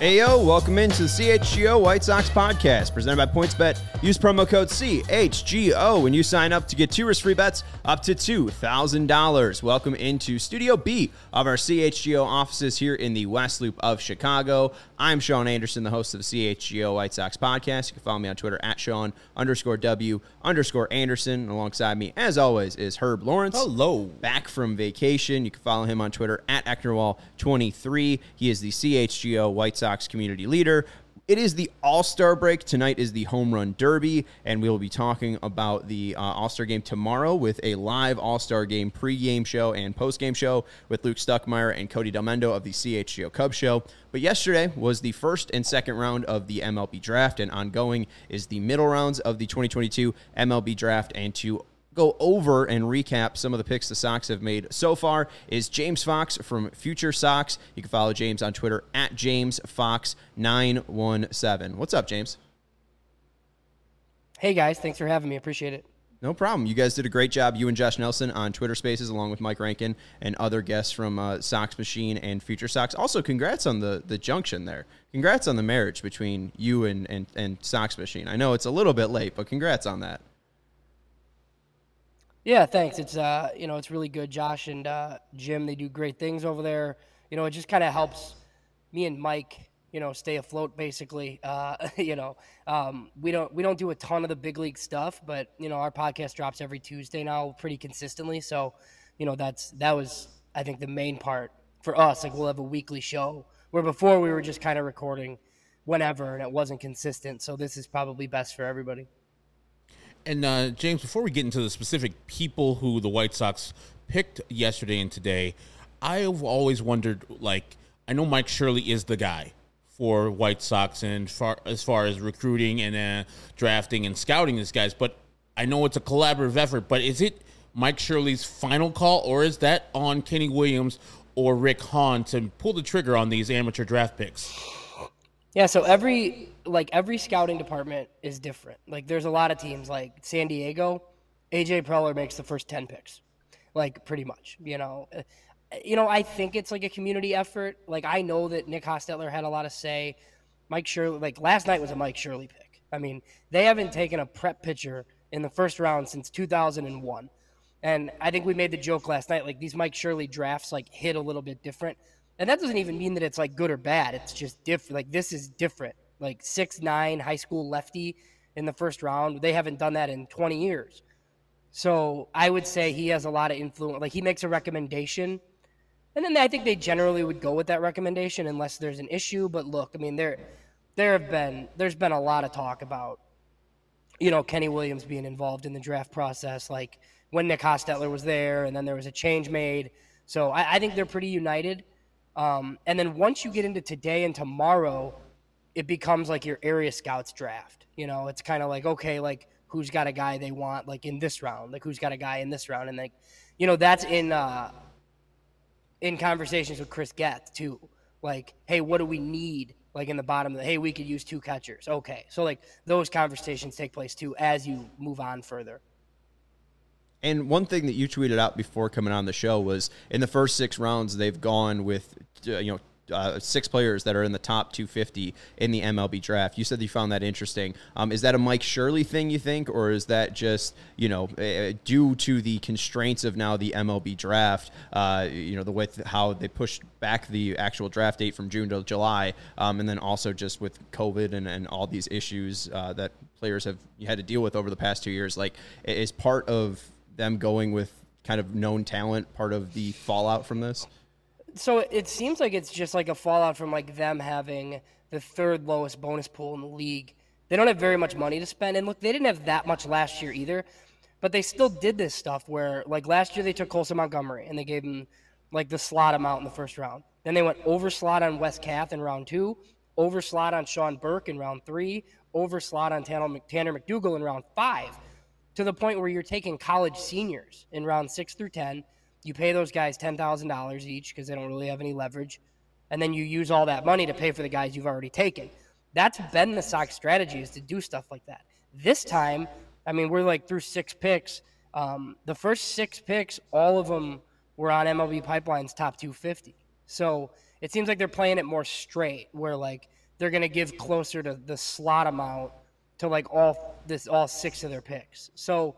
Ayo, welcome into the CHGO White Sox podcast presented by PointsBet. Use promo code CHGO when you sign up to get 2 risk-free bets up to $2,000. Welcome into Studio B of our CHGO offices here in the West Loop of Chicago. I'm Sean Anderson, the host of the CHGO White Sox podcast. You can follow me on Twitter at Sean_W_Anderson. Alongside me, as always, is Herb Lawrence. Hello. Back from vacation. You can follow him on Twitter at Ecknerwall23. He is the CHGO White Sox community leader. It is the All-Star break. Tonight is the Home Run Derby, and we will be talking about the All-Star game tomorrow with a live All-Star game pregame show and postgame show with Luke Stuckmeyer and Cody Delmendo of the CHGO Cubs Show. But yesterday was the first and second round of the MLB draft, and ongoing is the middle rounds of the 2022 MLB draft. And to go over and recap some of the picks the Sox have made so far is James Fox from Future Sox. You can follow James on Twitter at JamesFox917. What's up, James? Hey, guys. Thanks for having me. Appreciate it. No problem. You guys did a great job, you and Josh Nelson, on Twitter Spaces, along with Mike Rankin and other guests from Sox Machine and Future Sox. Also, congrats on the junction there. Congrats on the marriage between you and Sox Machine. I know it's a little bit late, but congrats on that. Yeah, thanks. It's it's really good. Josh and Jim, they do great things over there. It just kind of helps me and Mike, stay afloat. Basically, we don't do a ton of the big league stuff, but our podcast drops every Tuesday now, pretty consistently. So, that was I think the main part for us. Like, we'll have a weekly show where before we were just kind of recording whenever, and it wasn't consistent. So this is probably best for everybody. And, James, before we get into the specific people who the White Sox picked yesterday and today, I've always wondered, I know Mike Shirley is the guy for White Sox and as far as recruiting and drafting and scouting these guys, but I know it's a collaborative effort, but is it Mike Shirley's final call, or is that on Kenny Williams or Rick Hahn to pull the trigger on these amateur draft picks? Yeah, so every scouting department is different. Like, there's a lot of teams, like San Diego, AJ Preller makes the first 10 picks, pretty much. I think it's like a community effort. Like, I know that Nick Hostetler had a lot of say. Mike Shirley, last night was a Mike Shirley pick. I mean, they haven't taken a prep pitcher in the first round since 2001. And I think we made the joke last night, these Mike Shirley drafts, hit a little bit different. And that doesn't even mean that it's, good or bad. It's just different. This is different. 6'9", high school lefty in the first round. They haven't done that in 20 years. So I would say he has a lot of influence. He makes a recommendation. And then I think they generally would go with that recommendation unless there's an issue. But look, I mean, there's been a lot of talk about, Kenny Williams being involved in the draft process, when Nick Hostetler was there, and then there was a change made. So I think they're pretty united. And then once you get into today and tomorrow, it becomes your area scouts draft. It's kind of okay, who's got a guy they want, in this round, who's got a guy in this round. And that's in conversations with Chris Getz too. Hey, what do we need? In the bottom, hey, we could use 2 catchers. Okay. So those conversations take place too, as you move on further. And one thing that you tweeted out before coming on the show was in the first 6 rounds, they've gone with, 6 players that are in the top 250 in the MLB draft. You said you found that interesting. Is that a Mike Shirley thing, you think, or is that just, due to the constraints of now the MLB draft, the way how they pushed back the actual draft date from June to July, and then also just with COVID and all these issues that players have had to deal with over the past 2 years, is part of them going with kind of known talent part of the fallout from this? So it seems like it's just a fallout from them having the 3rd lowest bonus pool in the league. They don't have very much money to spend. And look, they didn't have that much last year either, but they still did this stuff where last year they took Colson Montgomery and they gave him the slot amount in the first round. Then they went over slot on Wes Kath in round 2, over slot on Sean Burke in round 3, over slot on Tanner McDougal in round 5, to the point where you're taking college seniors in round 6 through 10. You pay those guys $10,000 each because they don't really have any leverage. And then you use all that money to pay for the guys you've already taken. That's been the Sox strategy, is to do stuff like that. This time, we're through 6 picks. The first 6 picks, all of them were on MLB Pipeline's top 250. So it seems like they're playing it more straight, where like they're going to give closer to the slot amount to like all 6 of their picks. So,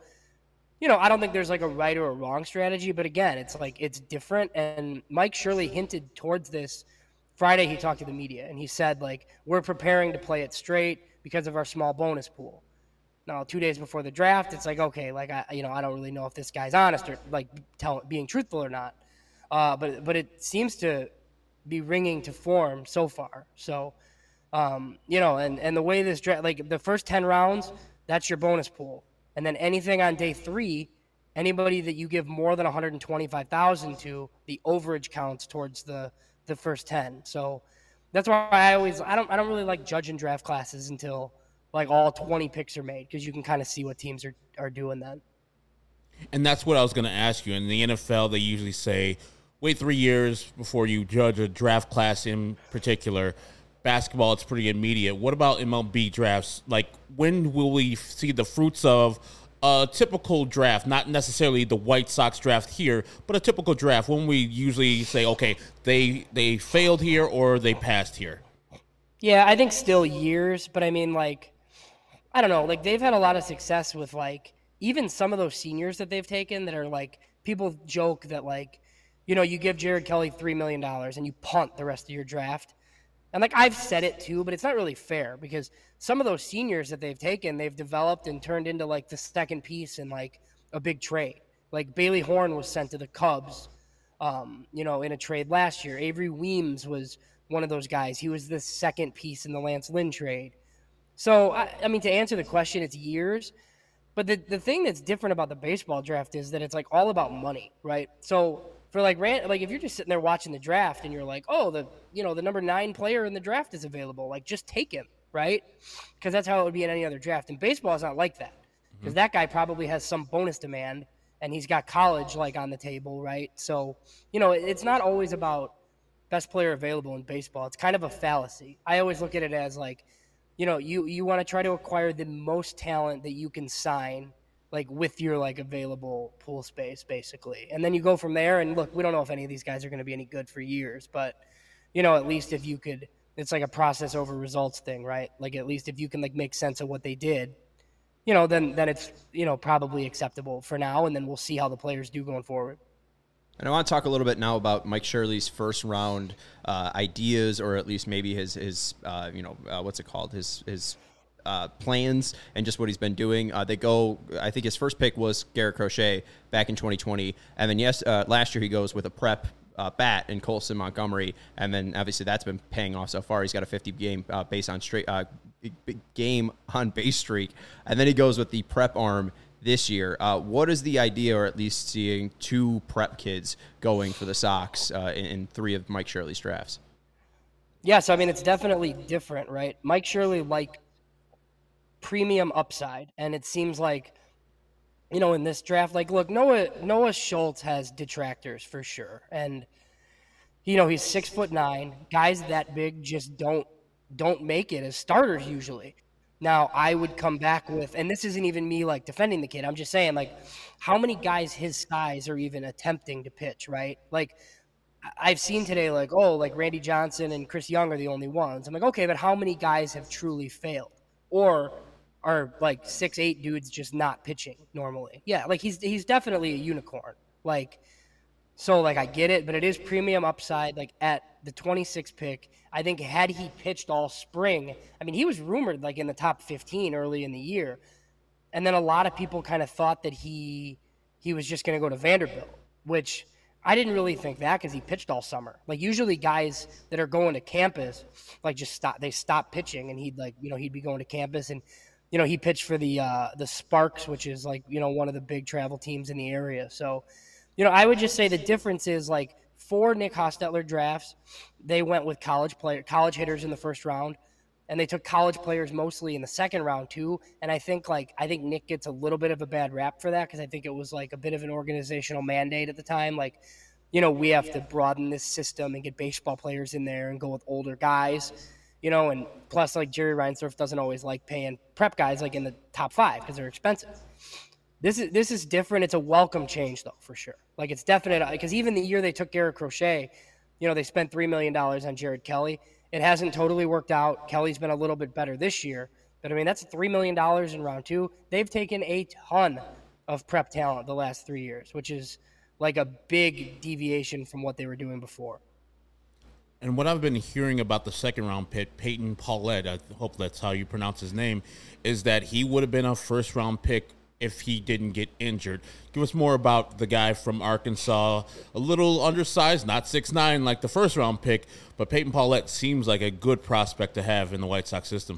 I don't think there's like a right or a wrong strategy, but again, it's like it's different. And Mike Shirley hinted towards this Friday. He talked to the media and he said like we're preparing to play it straight because of our small bonus pool. Now, 2 days before the draft, it's like, okay, like I don't really know if this guy's honest or like being truthful or not. But it seems to be ringing to form so far. So, and the way this draft, like the first 10 rounds, that's your bonus pool, and then anything on day 3, anybody that you give more than 125,000 to, the overage counts towards the first 10. So that's why I don't really like judging draft classes until like all 20 picks are made, because you can kind of see what teams are doing then. And that's what I was going to ask you. In the NFL, they usually say, wait 3 years before you judge a draft class in particular. Basketball, it's pretty immediate. What about MLB drafts? Like, when will we see the fruits of a typical draft? Not necessarily the White Sox draft here, but a typical draft. When we usually say, okay, they failed here or they passed here. Yeah, I think still years, but I mean, like, I don't know. Like, they've had a lot of success with, like, even some of those seniors that they've taken that are, like, people joke that, like, you give Jared Kelly $3 million and you punt the rest of your draft. And, like, I've said it too, but it's not really fair, because some of those seniors that they've taken, they've developed and turned into, like, the second piece in, like, a big trade. Like, Bailey Horn was sent to the Cubs, in a trade last year. Avery Weems was one of those guys. He was the second piece in the Lance Lynn trade. So, I mean, to answer the question, it's years. But the thing that's different about the baseball draft is that it's, like, all about money, right? So, for, like, if you're just sitting there watching the draft and you're like, oh, the number 9 player in the draft is available, like, just take him, right? Because that's how it would be in any other draft. And baseball is not like that, because that guy probably has some bonus demand and he's got college, like, on the table, right? So, it's not always about best player available in baseball. It's kind of a fallacy. I always look at it as, like, you want to try to acquire the most talent that you can sign, like, with your, like, available pool space, basically. And then you go from there, and look, we don't know if any of these guys are going to be any good for years, but, at least if you could, it's like a process over results thing, right? Like, at least if you can, like, make sense of what they did, then it's, probably acceptable for now, and then we'll see how the players do going forward. And I want to talk a little bit now about Mike Shirley's first round ideas, or at least maybe his what's it called? His plans and just what he's been doing. I think his first pick was Garrett Crochet back in 2020. And then last year he goes with a prep bat in Colson Montgomery. And then obviously that's been paying off so far. He's got a 50 game game on base streak. And then he goes with the prep arm this year. What is the idea, or at least seeing 2 prep kids going for the Sox in 3 of Mike Shirley's drafts? Yeah, so I mean, it's definitely different, right? Mike Shirley, like, premium upside, and it seems like, in this draft, like, look, Noah Schultz has detractors for sure, and he's 6'9". Guys that big just don't make it as starters usually. Now, I would come back with, and this isn't even me, like, defending the kid. I'm just saying, like, how many guys his size are even attempting to pitch, right? Like, I've seen today, like, oh, like, Randy Johnson and Chris Young are the only ones. I'm like, okay, but how many guys have truly failed? Or are, like, 6'8" dudes just not pitching normally? Yeah, like, he's definitely a unicorn. Like, so, like, I get it, but it is premium upside, like, at the 26th pick. I think had he pitched all spring, I mean, he was rumored, like, in the top 15 early in the year. And then a lot of people kind of thought that he was just going to go to Vanderbilt, which I didn't really think that, because he pitched all summer. Like, usually guys that are going to campus, like, they stop pitching, and he'd be going to campus, and, he pitched for the Sparks, which is, like, one of the big travel teams in the area. So, I would just say the difference is, like, 4 Nick Hostetler drafts, they went with college hitters in the first round, and they took college players mostly in the second round too. And I think Nick gets a little bit of a bad rap for that, because I think it was, like, a bit of an organizational mandate at the time. Like, we have to broaden this system and get baseball players in there and go with older guys, and plus, like, Jerry Reinsdorf doesn't always like paying prep guys, like, in the top 5 because they're expensive. This is different. It's a welcome change, though, for sure. Like, it's definite, because even the year they took Garrett Crochet, they spent $3 million on Jared Kelly. It hasn't totally worked out. Kelly's been a little bit better this year. But, I mean, that's $3 million in round 2. They've taken a ton of prep talent the last 3 years, which is like a big deviation from what they were doing before. And what I've been hearing about the second-round pick, Peyton Paulette, I hope that's how you pronounce his name, is that he would have been a first-round pick if he didn't get injured. Give us more about the guy from Arkansas, a little undersized, not 6'9" like the first-round pick, but Peyton Paulette seems like a good prospect to have in the White Sox system.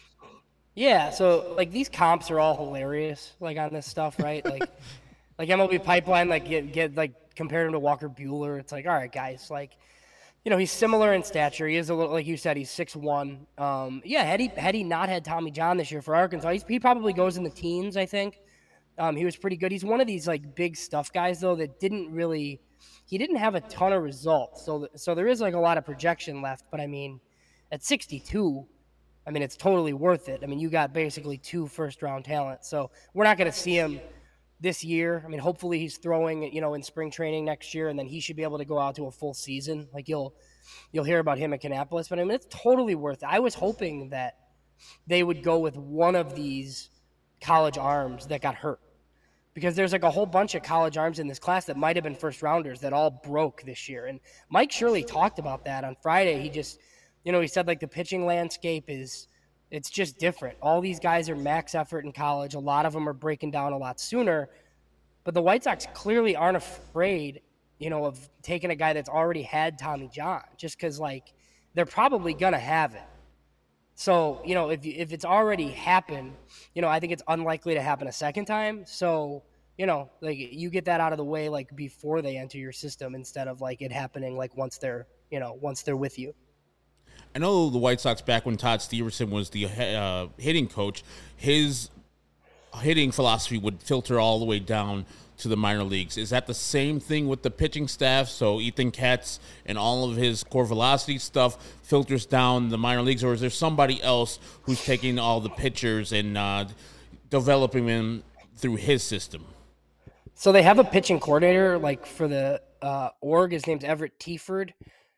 Yeah, so, like, these comps are all hilarious, like, on this stuff, right? Like MLB Pipeline, like, get like, compared him to Walker Buehler. It's like, all right, guys, like, he's similar in stature. He is a little, like you said, he's 6'1". Yeah, had he not had Tommy John this year for Arkansas, he probably goes in the teens, I think. He was pretty good. He's one of these, like, big stuff guys, though, that he didn't have a ton of results. So there is, like, a lot of projection left. But, I mean, at 62, I mean, it's totally worth it. I mean, you got basically 2 first-round talents. So we're not going to see him this year. I mean, hopefully he's throwing, in spring training next year, and then he should be able to go out to a full season. Like, you'll hear about him at Kannapolis. But, I mean, it's totally worth it. I was hoping that they would go with one of these college arms that got hurt, because there's, like, a whole bunch of college arms in this class that might have been first-rounders that all broke this year. And Mike Shirley talked about that on Friday. He just – he said, like, the pitching landscape it's just different. All these guys are max effort in college. A lot of them are breaking down a lot sooner. But the White Sox clearly aren't afraid, of taking a guy that's already had Tommy John, just because, like, they're probably going to have it. So, if it's already happened, I think it's unlikely to happen a second time. So, like, you get that out of the way, like, before they enter your system, instead of, like, it happening, like, once they're with you. I know the White Sox, back when Todd Stevenson was the hitting coach, his hitting philosophy would filter all the way down to the minor leagues. Is that the same thing with the pitching staff? So Ethan Katz and all of his core velocity stuff filters down the minor leagues, or is there somebody else who's taking all the pitchers and developing them through his system? So they have a pitching coordinator, like, for the org. His name's Everett Tieford.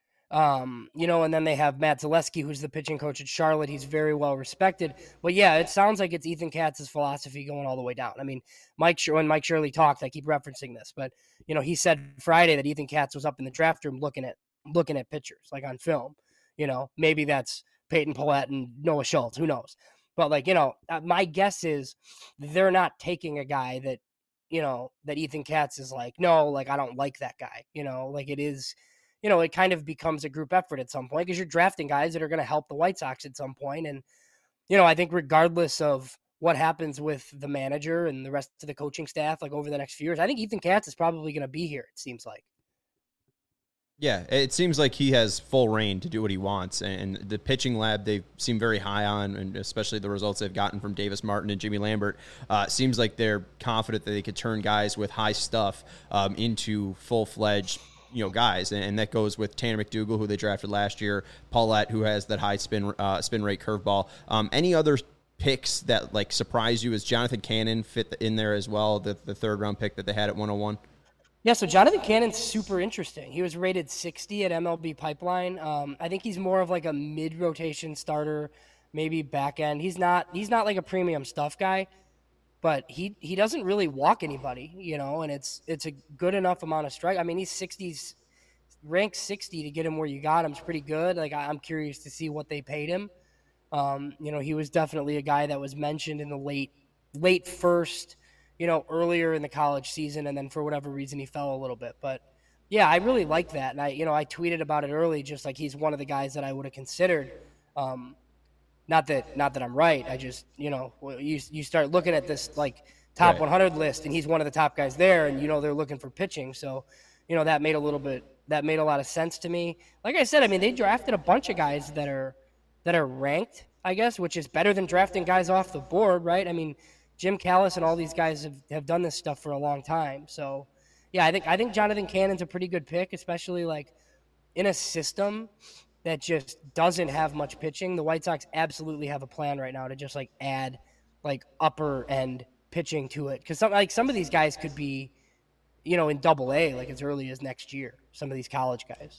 And then they have Matt Zaleski, who's the pitching coach at Charlotte. He's very well respected. But yeah, it sounds like it's Ethan Katz's philosophy going all the way down. I mean, when Mike Shirley talked, I keep referencing this, but he said Friday that Ethan Katz was up in the draft room looking at pitchers, like, on film. Maybe that's Peyton Paulette and Noah Schultz, who knows? But, like, my guess is they're not taking a guy that, that Ethan Katz is like, no, like, I don't like that guy. Like, it is. It kind of becomes a group effort at some point, because you're drafting guys that are going to help the White Sox at some point. And, I think regardless of what happens with the manager and the rest of the coaching staff, like, over the next few years, I think Ethan Katz is probably going to be here, it seems like. Yeah, it seems like he has full reign to do what he wants. And the pitching lab, they seem very high on, and especially the results they've gotten from Davis Martin and Jimmy Lambert. Seems like they're confident that they could turn guys with high stuff into full-fledged guys, and that goes with Tanner McDougal, who they drafted last year, Paulette, who has that high spin rate curveball. Any other picks that, like, surprise you? As Jonathan Cannon fit in there as well, the third round pick that they had at 101? Yeah, so Jonathan Cannon's super interesting. He was rated 60 at MLB Pipeline. I think he's more of, like, a mid-rotation starter, maybe back end. He's not like a premium stuff guy, but he doesn't really walk anybody, and it's a good enough amount of strike. I mean, he's ranked 60 to get him where you got him is pretty good. Like, I'm curious to see what they paid him. He was definitely a guy that was mentioned in the late first, earlier in the college season, and then for whatever reason he fell a little bit. But yeah, I really like that, and I tweeted about it early, just like he's one of the guys that I would have considered. Not that I'm right. I just, you start looking at this, like, top Right. 100 list, and he's one of the top guys there, and they're looking for pitching. So, that made a lot of sense to me. Like I said, I mean, they drafted a bunch of guys that are ranked, I guess, which is better than drafting guys off the board, right? I mean, Jim Callis and all these guys have done this stuff for a long time. So, yeah, I think Jonathan Cannon's a pretty good pick, especially, like, in a system that just doesn't have much pitching. The White Sox absolutely have a plan right now to just, like, add, like, upper end pitching to it, because some of these guys could be, in Double A, like, as early as next year. Some of these college guys.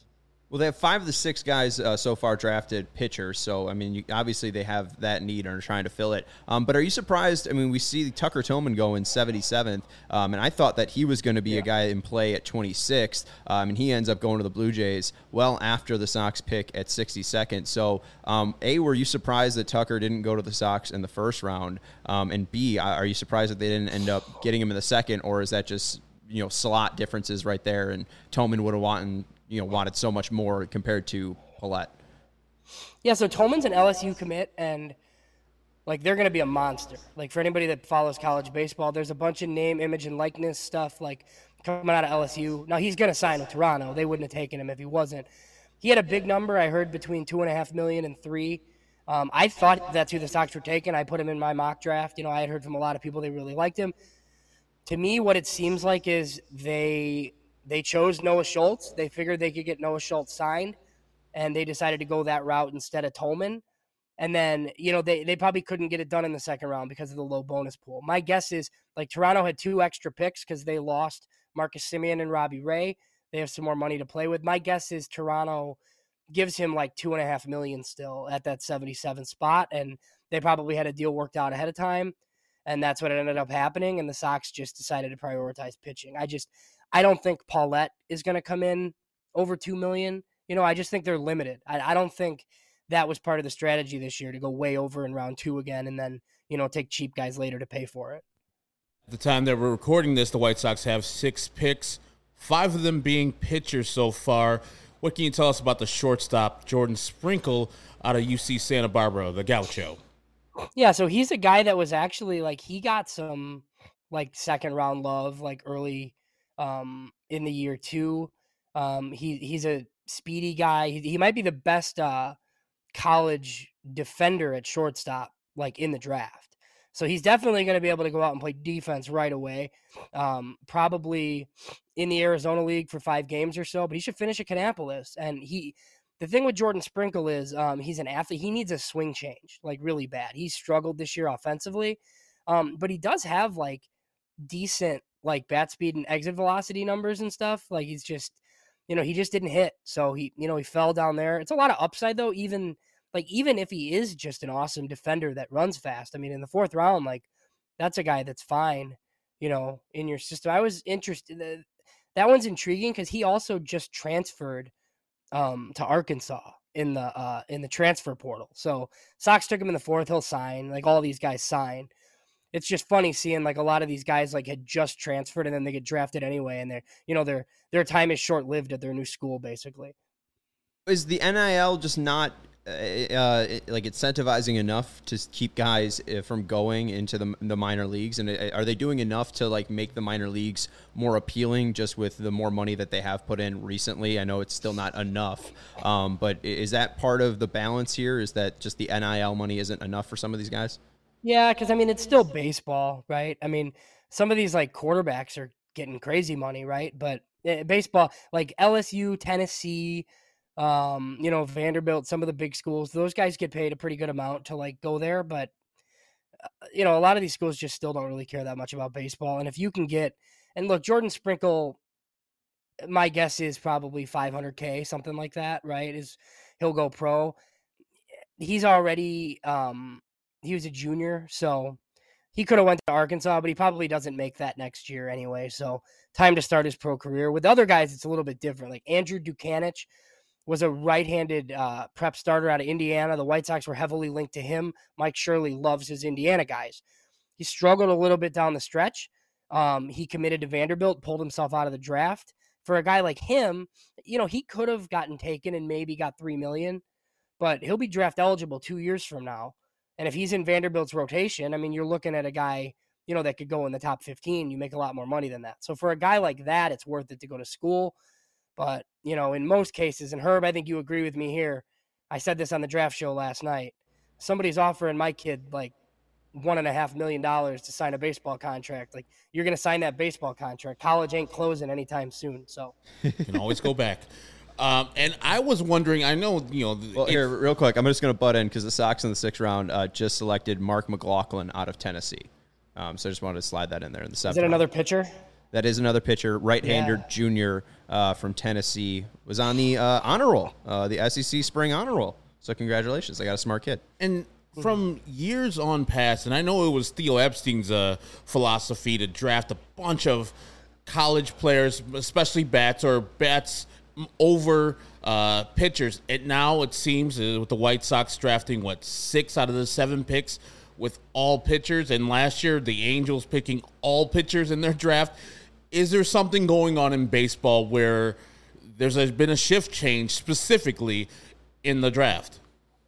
Well, they have 5 of the 6 guys so far drafted pitchers. So, I mean, obviously they have that need and are trying to fill it. But are you surprised? I mean, we see Tucker Tillman go in 77th, and I thought that he was going to be a guy in play at 26th, and he ends up going to the Blue Jays well after the Sox pick at 62nd. So, A, were you surprised that Tucker didn't go to the Sox in the first round? And B, are you surprised that they didn't end up getting him in the second, or is that just, slot differences right there, and Tillman would have wanted so much more compared to Paulette? Yeah, so Tolman's an LSU commit, and they're going to be a monster. For anybody that follows college baseball, there's a bunch of name, image, and likeness stuff coming out of LSU. Now he's going to sign with Toronto. They wouldn't have taken him if he wasn't. He had a big number. I heard between $2.5 million and $3 million. I thought that's who the Sox were taking. I put him in my mock draft. I had heard from a lot of people they really liked him. To me, what it seems like is they chose Noah Schultz. They figured they could get Noah Schultz signed, and they decided to go that route instead of Tolman. And then, they probably couldn't get it done in the second round because of the low bonus pool. My guess is, Toronto had 2 extra picks because they lost Marcus Semien and Robbie Ray. They have some more money to play with. My guess is Toronto gives him $2.5 million still at that 77 spot, and they probably had a deal worked out ahead of time. And that's what ended up happening, and the Sox just decided to prioritize pitching. I don't think Paulette is going to come in over $2 million. I just think they're limited. I don't think that was part of the strategy this year to go way over in round 2 again and then, take cheap guys later to pay for it. At the time that we're recording this, the White Sox have 6 picks, 5 of them being pitchers so far. What can you tell us about the shortstop, Jordan Sprinkle, out of UC Santa Barbara, the Gaucho? Yeah, so he's a guy that was actually he got some second round love early in the year too. He's a speedy guy. He might be the best college defender at shortstop in the draft. So he's definitely going to be able to go out and play defense right away. Probably in the Arizona League for 5 games or so, but he should finish at Kannapolis. And the thing with Jordan Sprinkle is he's an athlete. He needs a swing change, really bad. He's struggled this year offensively, but he does have decent bat speed and exit velocity numbers and stuff. He's just, he just didn't hit. So he fell down there. It's a lot of upside though. Even if he is just an awesome defender that runs fast. I mean, in the 4th round, that's a guy that's fine, in your system. I was interested. That one's intriguing because he also just transferred to Arkansas in the transfer portal. So Sox took him in the 4th. He'll sign. All these guys sign. It's just funny seeing a lot of these guys had just transferred and then they get drafted anyway, and their time is short lived at their new school basically. Is the NIL just not incentivizing enough to keep guys from going into the minor leagues? And are they doing enough to make the minor leagues more appealing just with the more money that they have put in recently? I know it's still not enough, but is that part of the balance here? Is that just the NIL money isn't enough for some of these guys? Yeah, because it's still baseball, right? Some of these quarterbacks are getting crazy money, right? But baseball, LSU, Tennessee, Vanderbilt, some of the big schools, those guys get paid a pretty good amount to go there. But, a lot of these schools just still don't really care that much about baseball. And if you can and look, Jordan Sprinkle, my guess is probably $500K, something like that, right? He'll go pro. He's already, he was a junior, so he could have went to Arkansas, but he probably doesn't make that next year anyway. So time to start his pro career. With other guys, it's a little bit different. Andrew Dukanich was a right-handed prep starter out of Indiana. The White Sox were heavily linked to him. Mike Shirley loves his Indiana guys. He struggled a little bit down the stretch. He committed to Vanderbilt, pulled himself out of the draft. For a guy like him, he could have gotten taken and maybe got $3 million, but he'll be draft eligible 2 years from now. And if he's in Vanderbilt's rotation, you're looking at a guy, that could go in the top 15. You make a lot more money than that. So for a guy like that, it's worth it to go to school. But, in most cases, and Herb, I think you agree with me here. I said this on the draft show last night. Somebody's offering my kid $1.5 million to sign a baseball contract. You're going to sign that baseball contract. College ain't closing anytime soon. So you can always go back. And I was wondering, I know, Well, here, real quick, I'm just going to butt in because the Sox in the 6th round just selected Mark McLaughlin out of Tennessee. So I just wanted to slide that in there in the 7th Is it round. another pitcher? That is another pitcher, right-hander junior from Tennessee, was on the honor roll, the SEC spring honor roll. So congratulations. I got a smart kid. And from years on past, and I know it was Theo Epstein's philosophy to draft a bunch of college players, especially bats over pitchers. And now it seems with the White Sox drafting, 6 out of the 7 picks with all pitchers. And last year, the Angels picking all pitchers in their draft. Is there something going on in baseball where there's been a shift change specifically in the draft?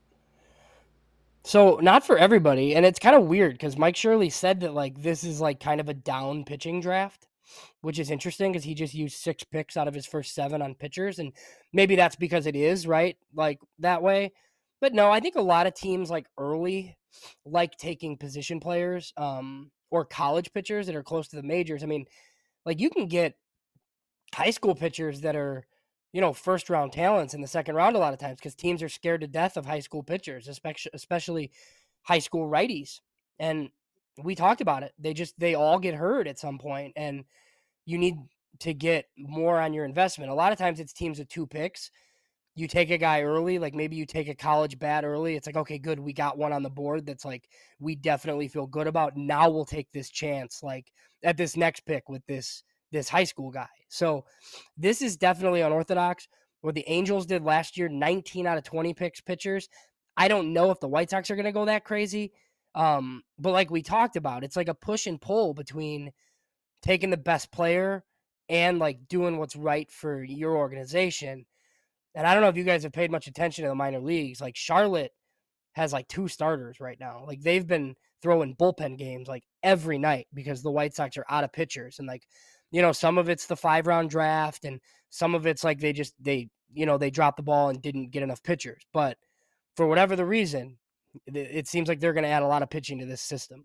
So not for everybody, and it's kind of weird because Mike Shirley said that like this is like kind of a down pitching draft, which is interesting because he just used 6 picks out of his first 7 on pitchers, and maybe that's because it is right like that way. But no, I think a lot of teams like early like taking position players or college pitchers that are close to the majors. I mean, like you can get high school pitchers that are, first round talents in the second round a lot of times because teams are scared to death of high school pitchers, especially high school righties. And we talked about it. They all get hurt at some point, and you need to get more on your investment. A lot of times it's teams with 2 picks. You take a guy early, like maybe you take a college bat early. It's like, okay, good. We got one on the board that's like, we definitely feel good about. Now we'll take this chance, like at this next pick with this high school guy. So this is definitely unorthodox. What the Angels did last year, 19 out of 20 picks pitchers. I don't know if the White Sox are going to go that crazy. But like we talked about, it's like a push and pull between taking the best player and like doing what's right for your organization. And I don't know if you guys have paid much attention to the minor leagues. Like Charlotte has like 2 starters right now. Like they've been throwing bullpen games like every night because the White Sox are out of pitchers. And like, some of it's the 5-round draft and some of it's like they dropped the ball and didn't get enough pitchers. But for whatever the reason, it seems like they're going to add a lot of pitching to this system.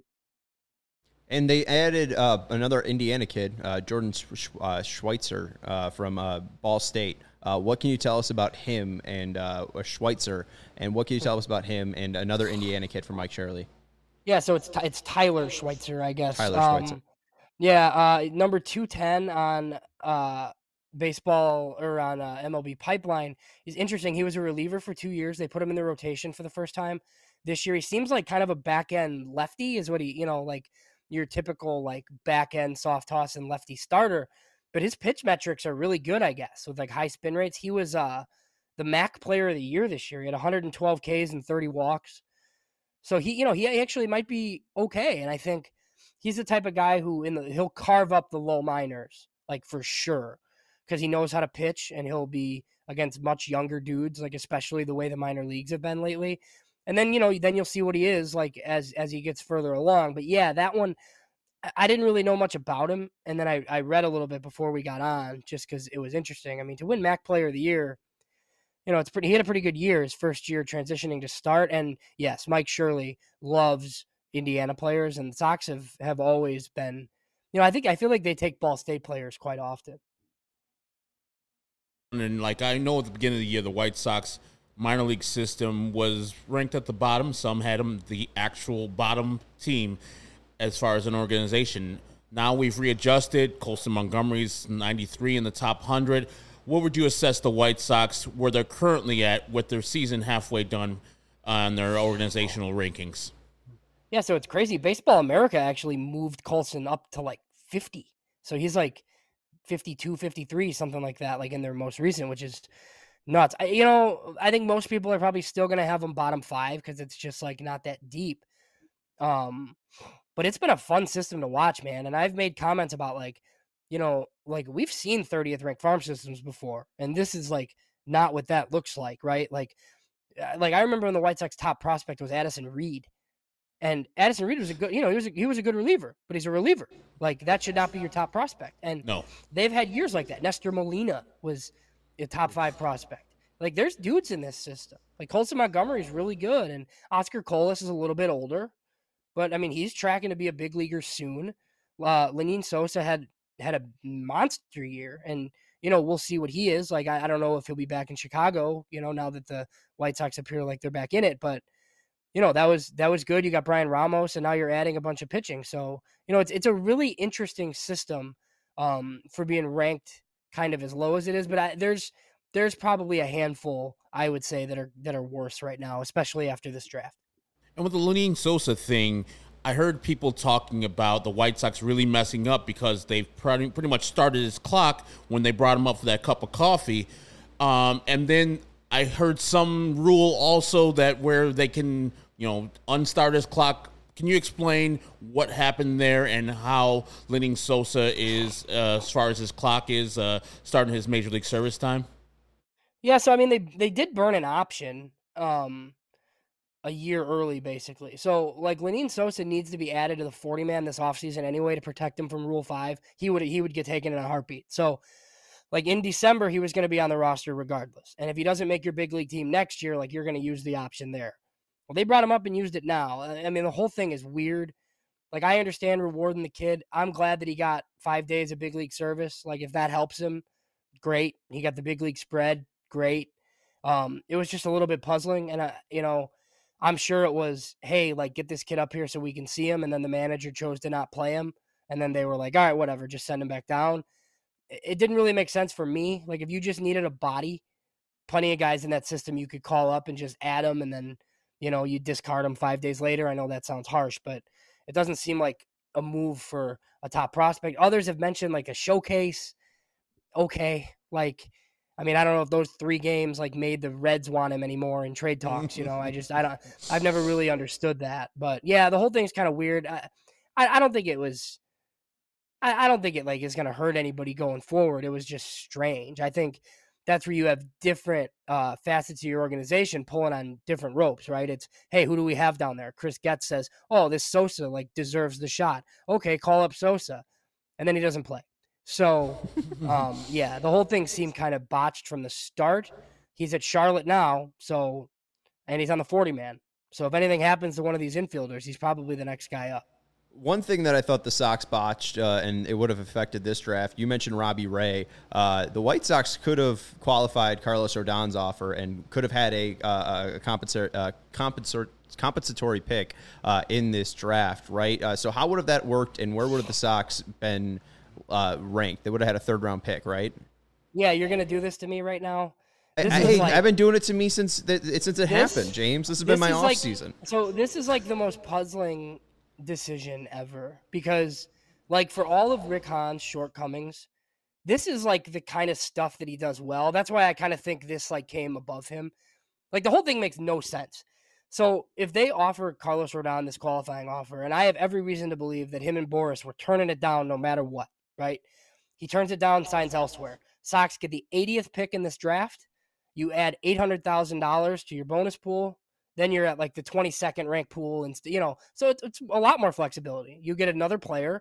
And they added another Indiana kid, Jordan Schweitzer from Ball State. What can you tell us about him and Schweitzer? And what can you tell us about him and another Indiana kid from Mike Shirley? Yeah, so it's Tyler Schweitzer, I guess. Tyler Schweitzer. Yeah, number 210 on baseball or on MLB Pipeline is interesting. He was a reliever for 2 years. They put him in the rotation for the first time this year. He seems like kind of a back end lefty is what he, like your typical like back end soft toss and lefty starter. But his pitch metrics are really good, I guess, with like high spin rates. He was the MAC player of the year this year. He had 112 Ks and 30 walks. So he actually might be okay. And I think he's the type of guy who he'll carve up the low minors, like for sure, because he knows how to pitch and he'll be against much younger dudes, like especially the way the minor leagues have been lately. And then, then you'll see what he is like as he gets further along. But yeah, that one, I didn't really know much about him. And then I read a little bit before we got on just because it was interesting. I mean, to win MAC Player of the Year, he had a pretty good year his first year transitioning to start. And yes, Mike Shirley loves Indiana players, and the Sox have always been, I feel like they take Ball State players quite often. And like I know at the beginning of the year, the White Sox minor league system was ranked at the bottom. Some had them the actual bottom team as far as an organization. Now we've readjusted. Colson Montgomery's 93 in the top 100. What would you assess the White Sox where they're currently at with their season halfway done on their organizational rankings? Yeah, so it's crazy. Baseball America actually moved Colson up to like 50. So he's like 52, 53, something like that, like in their most recent, which is nuts. I think most people are probably still going to have him bottom 5 because it's just like not that deep. But it's been a fun system to watch, man. And I've made comments about like we've seen 30th ranked farm systems before, and this is like not what that looks like, right? Like I remember when the White Sox top prospect was Addison Reed, and Addison Reed was a good, he was a good reliever, but he's a reliever. Like that should not be your top prospect. And no, they've had years like that. Nestor Molina was a top 5 prospect. Like there's dudes in this system. Like Colson Montgomery is really good, and Oscar Colas is a little bit older, but I mean he's tracking to be a big leaguer soon. Lenin Sosa had a monster year, and we'll see what he is like. I don't know if he'll be back in Chicago, now that the White Sox appear like they're back in it, but that was good. You got Brian Ramos, and now you're adding a bunch of pitching. So it's a really interesting system for being ranked kind of as low as it is. But there's probably a handful, I would say, that are worse right now, especially after this draft. And with the Lenyn Sosa thing, I heard people talking about the White Sox really messing up because they've pretty much started his clock when they brought him up for that cup of coffee. And then I heard some rule also that where they can, unstart his clock. Can you explain what happened there and how Lenyn Sosa is, as far as his clock is, starting his Major League Service time? Yeah, so I mean, they did burn an option a year early, basically. So, like, Lenyn Sosa needs to be added to the 40-man this offseason anyway to protect him from Rule 5. He would get taken in a heartbeat. So, like, in December, he was going to be on the roster regardless. And if he doesn't make your big league team next year, like, you're going to use the option there. Well, they brought him up and used it now. I mean, the whole thing is weird. Like, I understand rewarding the kid. I'm glad that he got 5 days of big league service. Like, if that helps him, great. He got the big league spread, great. It was just a little bit puzzling. And, I'm sure it was, hey, like, get this kid up here so we can see him. And then the manager chose to not play him. And then they were like, all right, whatever, just send him back down. It didn't really make sense for me. Like, if you just needed a body, plenty of guys in that system you could call up and just add them. And then, you discard them 5 days later. I know that sounds harsh, but it doesn't seem like a move for a top prospect. Others have mentioned like a showcase. Okay. Like, I mean, I don't know if those 3 games like made the Reds want him anymore in trade talks. I've never really understood that. But yeah, the whole thing's kind of weird. I don't think it was. I don't think it like is going to hurt anybody going forward. It was just strange. I think that's where you have different facets of your organization pulling on different ropes, right? It's, hey, who do we have down there? Chris Getz says, oh, this Sosa like deserves the shot. Okay, call up Sosa, and then he doesn't play. So, yeah, the whole thing seemed kind of botched from the start. He's at Charlotte now, and he's on the 40-man. So if anything happens to one of these infielders, he's probably the next guy up. One thing that I thought the Sox botched, and it would have affected this draft, you mentioned Robbie Ray. The White Sox could have qualified Carlos Rodon's offer and could have had a compensatory pick in this draft, right? So how would have that worked, and where would have the Sox been ranked? They would have had a third-round pick, right? Yeah, you're going to do this to me right now? I've been doing it to me since it happened, James. This has been my off season. So this is like the most puzzling decision ever, because like for all of Rick Hahn's shortcomings, this is like the kind of stuff that he does well. That's why I kind of think this like came above him. Like the whole thing makes no sense. So if they offer Carlos Rodon this qualifying offer, and I have every reason to believe that him and Boris were turning it down no matter what, right? He turns it down, signs elsewhere. Sox get the 80th pick in this draft. You add $800,000 to your bonus pool. Then you're at like the 22nd ranked pool, and so it's a lot more flexibility. You get another player,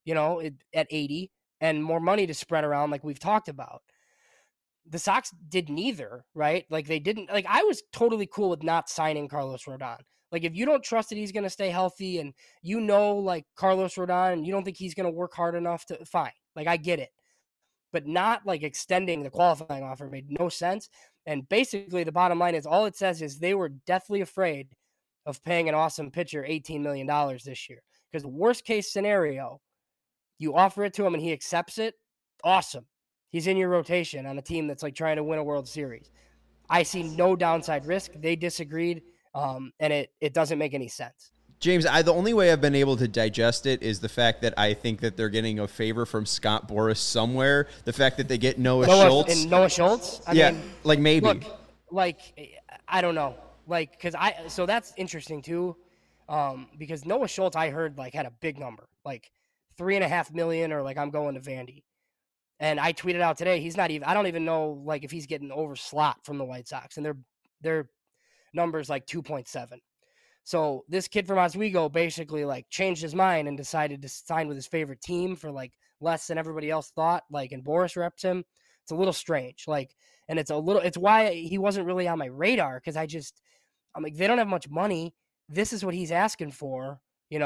at 80, and more money to spread around, like we've talked about. The Sox did neither, right? Like they didn't. Like I was totally cool with not signing Carlos Rodon. Like if you don't trust that he's going to stay healthy, and like Carlos Rodon, and you don't think he's going to work hard enough to, fine. Like I get it, but not like extending the qualifying offer made no sense. And basically the bottom line is all it says is they were deathly afraid of paying an awesome pitcher $18 million this year. Because the worst case scenario, you offer it to him and he accepts it. Awesome. He's in your rotation on a team that's like trying to win a World Series. I see no downside risk. They disagreed. And it doesn't make any sense. James, the only way I've been able to digest it is the fact that I think that they're getting a favor from Scott Boras somewhere. The fact that they get Noah Schultz. And Noah Schultz? I mean, like maybe. Look, like, I don't know. Like, so that's interesting too. Because Noah Schultz, I heard like had a big number, like $3.5 million, or like I'm going to Vandy. And I tweeted out today, he's not even, I don't even know like if he's getting over slot from the White Sox, and their numbers like 2.7. So this kid from Oswego basically like changed his mind and decided to sign with his favorite team for like less than everybody else thought. Like, and Boris reps him. It's a little strange. Like, and it's why he wasn't really on my radar. Cause I'm like, they don't have much money. This is what he's asking for.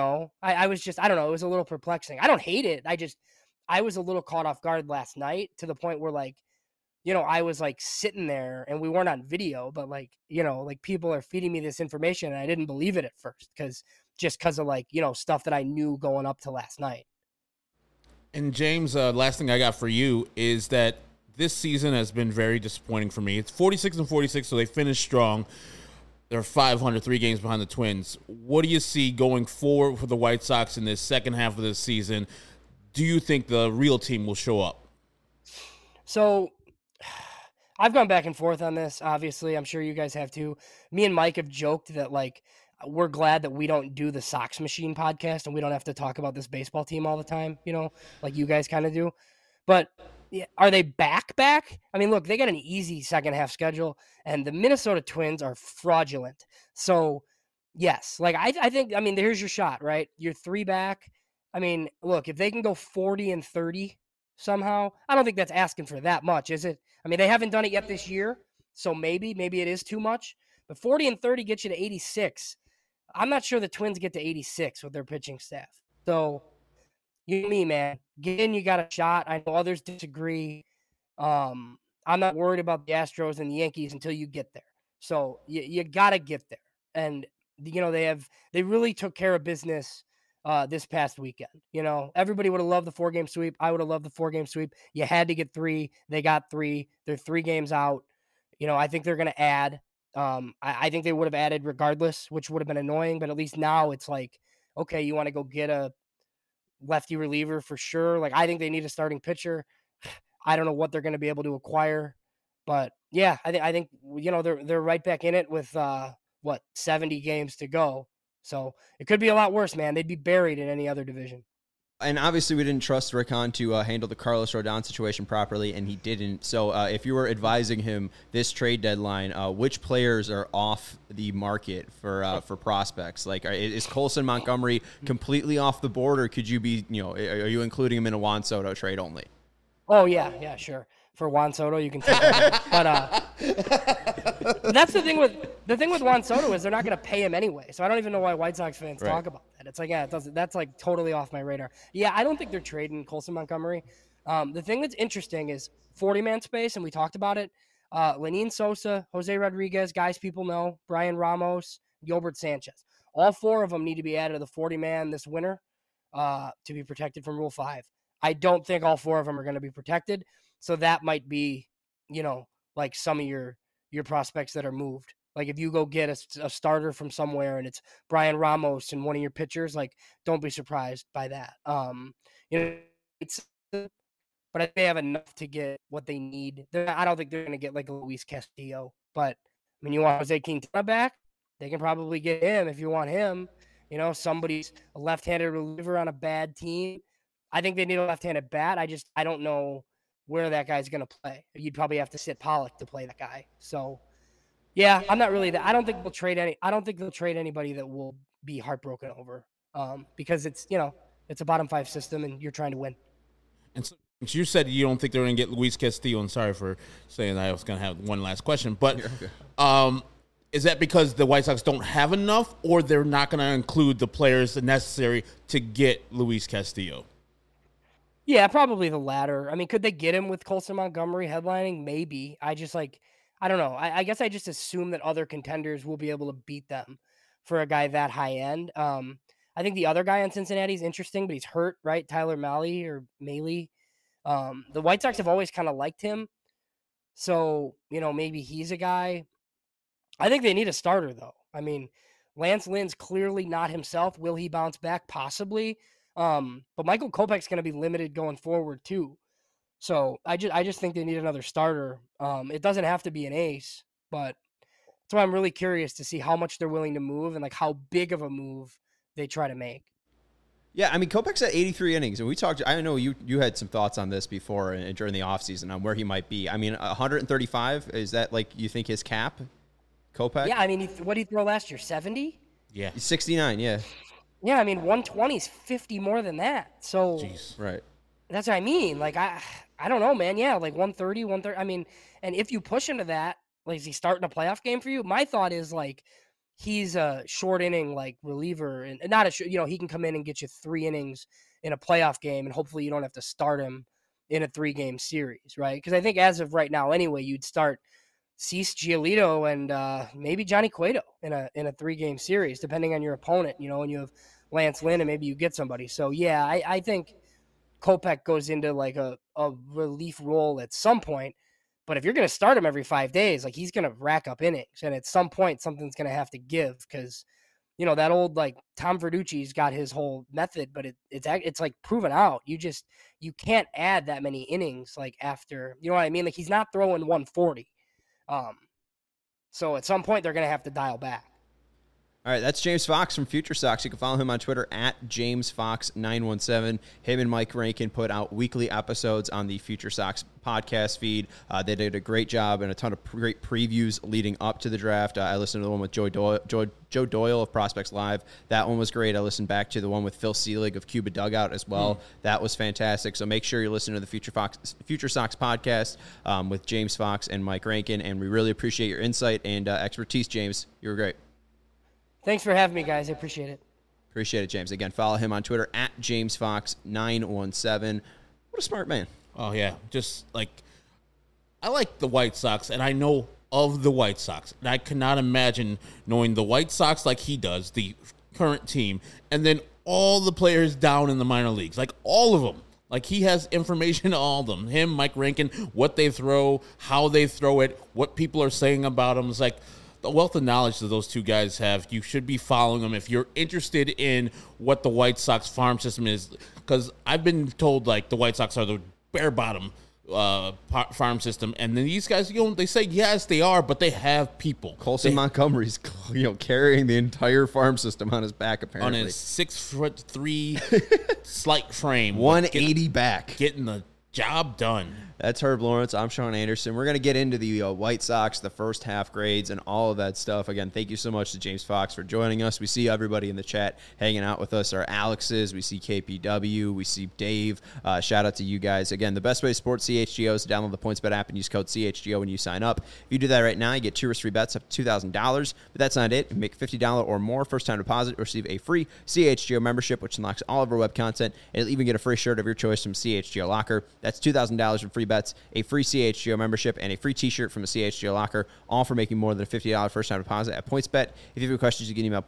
I was just, I don't know. It was a little perplexing. I don't hate it. I was a little caught off guard last night to the point where like, I was like sitting there and we weren't on video, but like, like people are feeding me this information and I didn't believe it at first because of like, stuff that I knew going up to last night. And James, last thing I got for you is that this season has been very disappointing for me. It's 46-46, so they finished strong. They're 500, 3 games behind the Twins. What do you see going forward for the White Sox in this second half of the season? Do you think the real team will show up? So I've gone back and forth on this, obviously. I'm sure you guys have too. Me and Mike have joked that, like, we're glad that we don't do the Sox Machine podcast and we don't have to talk about this baseball team all the time, like you guys kind of do. But yeah, are they back? I mean, look, they got an easy second half schedule, and the Minnesota Twins are fraudulent. So, yes, like I think, I mean, here's your shot, right? You're 3 back. I mean, look, if they can go 40-30 somehow, I don't think that's asking for that much, is it? I mean, they haven't done it yet this year, so maybe it is too much. But 40-30 gets you to 86. I'm not sure the Twins get to 86 with their pitching staff. So, you and me, man. Get in, you got a shot. I know others disagree. I'm not worried about the Astros and the Yankees until you get there. So you got to get there. And, they really took care of business this past weekend. Everybody would have loved the 4-game sweep. I would have loved the 4-game sweep. You had to get 3. They got 3. They're 3 games out. I think they're going to add. I think they would have added regardless, which would have been annoying. But at least now it's like, okay, you want to go get a lefty reliever for sure. Like, I think they need a starting pitcher. I don't know what they're going to be able to acquire, but yeah, I think they're right back in it with 70 games to go. So it could be a lot worse, man. They'd be buried in any other division. And obviously, we didn't trust Rick Hahn to handle the Carlos Rodon situation properly, and he didn't. So if you were advising him this trade deadline, which players are off the market for prospects? Like, is Colson Montgomery completely off the board, or could you be, are you including him in a Juan Soto trade only? Oh, yeah, sure. For Juan Soto, you can take that. But that's the thing with Juan Soto is they're not going to pay him anyway. So I don't even know why White Sox fans talk about that. It's like, yeah, that's like totally off my radar. Yeah, I don't think they're trading Colson Montgomery. The thing that's interesting is 40-man space, and we talked about it. Lenyn Sosa, Jose Rodriguez, guys people know, Brian Ramos, Gilbert Sanchez. All 4 of them need to be added to the 40-man this winter to be protected from Rule 5. I don't think all 4 of them are going to be protected. So that might be, like some of your prospects that are moved. Like if you go get a starter from somewhere and it's Brian Ramos and one of your pitchers, like don't be surprised by that. But I think they have enough to get what they need. I don't think they're going to get like a Luis Castillo. But I mean, you want Jose Quintana back? They can probably get him if you want him. Somebody's a left-handed reliever on a bad team. I think they need a left-handed bat. I don't know where that guy's going to play. You'd probably have to sit Pollock to play that guy. So, yeah, I'm not really that. I don't think they'll trade anybody that will be heartbroken over because it's a bottom 5 system and you're trying to win. And so you said you don't think they're going to get Luis Castillo, and sorry for saying that. I was going to have one last question, but is that because the White Sox don't have enough, or they're not going to include the players necessary to get Luis Castillo? Yeah, probably the latter. I mean, could they get him with Colson Montgomery headlining? Maybe. I don't know. I guess I just assume that other contenders will be able to beat them for a guy that high end. I think the other guy on Cincinnati is interesting, but he's hurt, right? Tyler Mahle. The White Sox have always kind of liked him. So, maybe he's a guy. I think they need a starter, though. I mean, Lance Lynn's clearly not himself. Will he bounce back? Possibly. But Michael Kopech's going to be limited going forward too. So I just think they need another starter. It doesn't have to be an ace, but that's why I'm really curious to see how much they're willing to move and like how big of a move they try to make. Yeah, I mean, Kopech's at 83 innings, and we talked. I know you had some thoughts on this before and during the offseason on where he might be. I mean, 135, is that like you think his cap, Kopech? Yeah, I mean, what did he throw last year? 70? Yeah, 69. Yeah. Yeah, I mean, 120 is 50 more than that. So jeez, right. That's what I mean. Like I don't know, man. Yeah, like 130. I mean, and if you push into that, like is he starting a playoff game for you? My thought is like he's a short inning like reliever, and not he can come in and get you 3 innings in a playoff game, and hopefully you don't have to start him in a 3-game series, right? Because I think as of right now, anyway, you'd start Cease, Giolito, and maybe Johnny Cueto in a 3-game series, depending on your opponent. And you have Lance Lynn, and maybe you get somebody. So yeah, I think Kopech goes into like a relief role at some point. But if you're going to start him every 5 days, like he's going to rack up innings. And at some point, something's going to have to give because, you know, that old like Tom Verducci's got his whole method, but it's like proven out. You can't add that many innings like after, you know what I mean? Like he's not throwing 140. So at some point, they're going to have to dial back. All right, that's James Fox from Future Sox. You can follow him on Twitter at JamesFox917. Him and Mike Rankin put out weekly episodes on the Future Sox podcast feed. They did a great job and a ton of great previews leading up to the draft. I listened to the one with Joe Doyle of Prospects Live. That one was great. I listened back to the one with Phil Seelig of Cuba Dugout as well. That was fantastic. So make sure you listen to the Future Sox podcast with James Fox and Mike Rankin. And we really appreciate your insight and expertise, James. You were great. Thanks for having me, guys. I appreciate it. Appreciate it, James. Again, follow him on Twitter at JamesFox917. What a smart man. Oh, yeah. Just like, I like the White Sox, and I know of the White Sox. And I cannot imagine knowing the White Sox like he does, the current team, and then all the players down in the minor leagues, like all of them. Like he has information on all of them. Him, Mike Rankin, what they throw, how they throw it, what people are saying about them. It's like, the wealth of knowledge that those two guys have, you should be following them if you're interested in what the White Sox farm system is. Because I've been told like the White Sox are the bare bottom farm system, and then these guys, they say yes, they are, but they have people. Colson Montgomery's, carrying the entire farm system on his back apparently on his 6'3" slight frame, 180 back, getting the job done. That's Herb Lawrence. I'm Sean Anderson. We're going to get into the White Sox, the first half grades, and all of that stuff. Again, thank you so much to James Fox for joining us. We see everybody in the chat hanging out with us. Our Alexes. We see KPW. We see Dave. Shout out to you guys. Again, the best way to support CHGO is to download the PointsBet app and use code CHGO when you sign up. If you do that right now, you get 2 risk-free bets up to $2,000. But that's not it. If you make $50 or more first-time deposit, receive a free CHGO membership, which unlocks all of our web content. And you'll even get a free shirt of your choice from CHGO Locker. That's $2,000 in free bets, a free CHGO membership, and a free t-shirt from a CHGO Locker, all for making more than a $50 first-time deposit at PointsBet. If you have any questions, you can email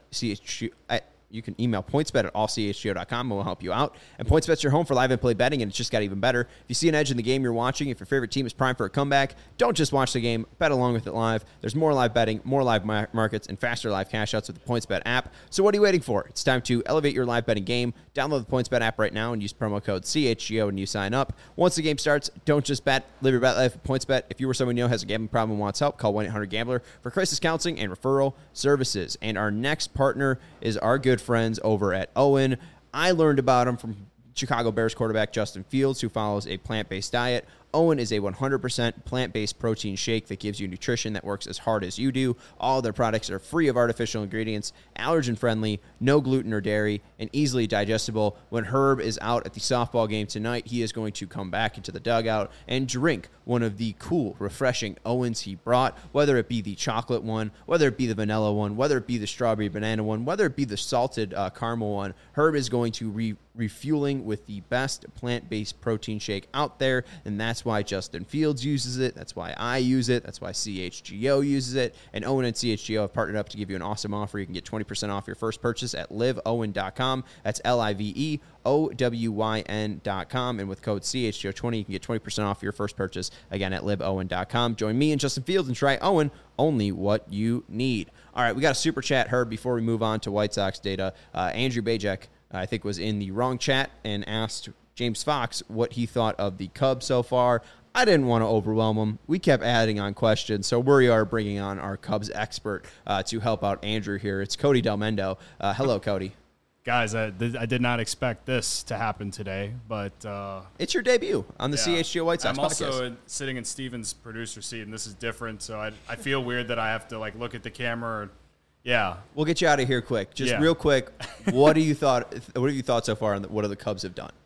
PointsBet at allchgo.com, and we'll help you out. And PointsBet's your home for live and play betting, and it's just got even better. If you see an edge in the game you're watching, if your favorite team is primed for a comeback, don't just watch the game, bet along with it live. There's more live betting, more live markets, and faster live cash outs with the PointsBet app. So what are you waiting for? It's time to elevate your live betting game. Download the PointsBet app right now and use promo code CHGO when you sign up. Once the game starts, don't just bet. Live your bet life with PointsBet. If you or someone you know has a gambling problem and wants help, call 1-800-GAMBLER for crisis counseling and referral services. And our next partner is our good friends over at Owen. I learned about them from Chicago Bears quarterback Justin Fields, who follows a plant-based diet. Owen is a 100% plant-based protein shake that gives you nutrition that works as hard as you do. All of their products are free of artificial ingredients, allergen-friendly, no gluten or dairy, and easily digestible. When Herb is out at the softball game tonight, he is going to come back into the dugout and drink one of the cool, refreshing Owens he brought, whether it be the chocolate one, whether it be the vanilla one, whether it be the strawberry banana one, whether it be the salted caramel one. Herb is going to refueling with the best plant-based protein shake out there, and that's why Justin Fields uses it. That's why I use it. That's why CHGO uses it. And Owen and CHGO have partnered up to give you an awesome offer. You can get 20% off your first purchase at liveowen.com. That's LIVEOWYN.com. And with code CHGO20, you can get 20% off your first purchase, again, at liveowen.com. Join me and Justin Fields and try Owen, only what you need. All right, we got a super chat, Herb, before we move on to White Sox data. Andrew Bajek, I think, was in the wrong chat and asked James Fox what he thought of the Cubs so far. I didn't want to overwhelm him. We kept adding on questions, so we are bringing on our Cubs expert to help out Andrew here. It's Cody Delmendo. Hello, Cody. Guys, I did not expect this to happen today, but it's your debut on the CHGO White Sox podcast. I'm also sitting in Steven's producer seat, and this is different, so I feel weird that I have to look at the camera. Yeah, we'll get you out of here quick. Just real quick, what have you thought so far on what the Cubs have done?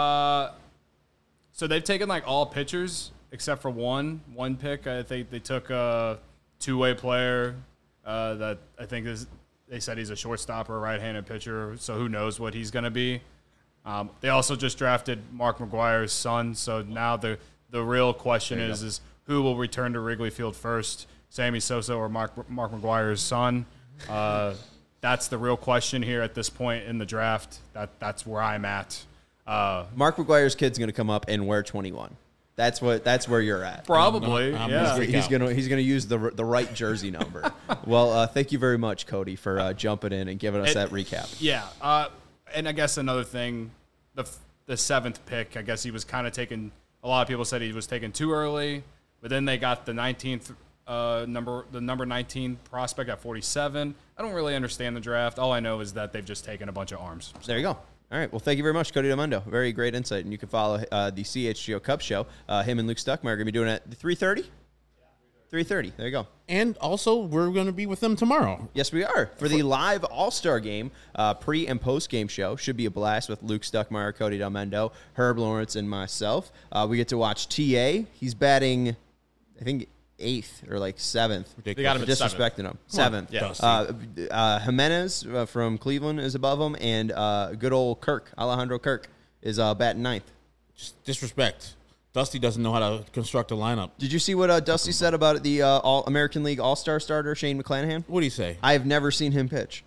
So they've taken all pitchers except for one pick. I think they took a two-way player that I think they said he's a shortstop or a right-handed pitcher, so who knows what he's going to be. They also just drafted Mark McGwire's son, so now the real question is who will return to Wrigley Field first, Sammy Sosa or Mark McGwire's son? That's the real question here at this point in the draft. That's where I'm at. Mark McGuire's kid's going to come up and wear 21. That's where you're at. Probably, I'm yeah. He's gonna use the right jersey number. Well, thank you very much, Cody, for jumping in and giving us that recap. Yeah, and I guess another thing, the 7th pick, I guess he was kind of taken. A lot of people said he was taken too early, but then they got the 19th number 19 prospect at 47. I don't really understand the draft. All I know is that they've just taken a bunch of arms. There you go. All right. Well, thank you very much, Cody Demundo. Very great insight. And you can follow the CHGO Cup show. Him and Luke Stuckmeyer are going to be doing it at 3:30? 3:30. There you go. And also, we're going to be with them tomorrow. Yes, we are. For the live All-Star Game, pre- and post-game show. Should be a blast with Luke Stuckmeyer, Cody Delmendo, Herb Lawrence, and myself. We get to watch TA. He's batting, I think, 8th or like 7th. They got him at disrespecting him. 7th. Yeah. Jimenez from Cleveland is above him, and good old Kirk, Alejandro Kirk, is batting 9th. Just disrespect. Dusty doesn't know how to construct a lineup. Did you see what Dusty said about the American League All-Star starter, Shane McClanahan? What do you say? I have never seen him pitch.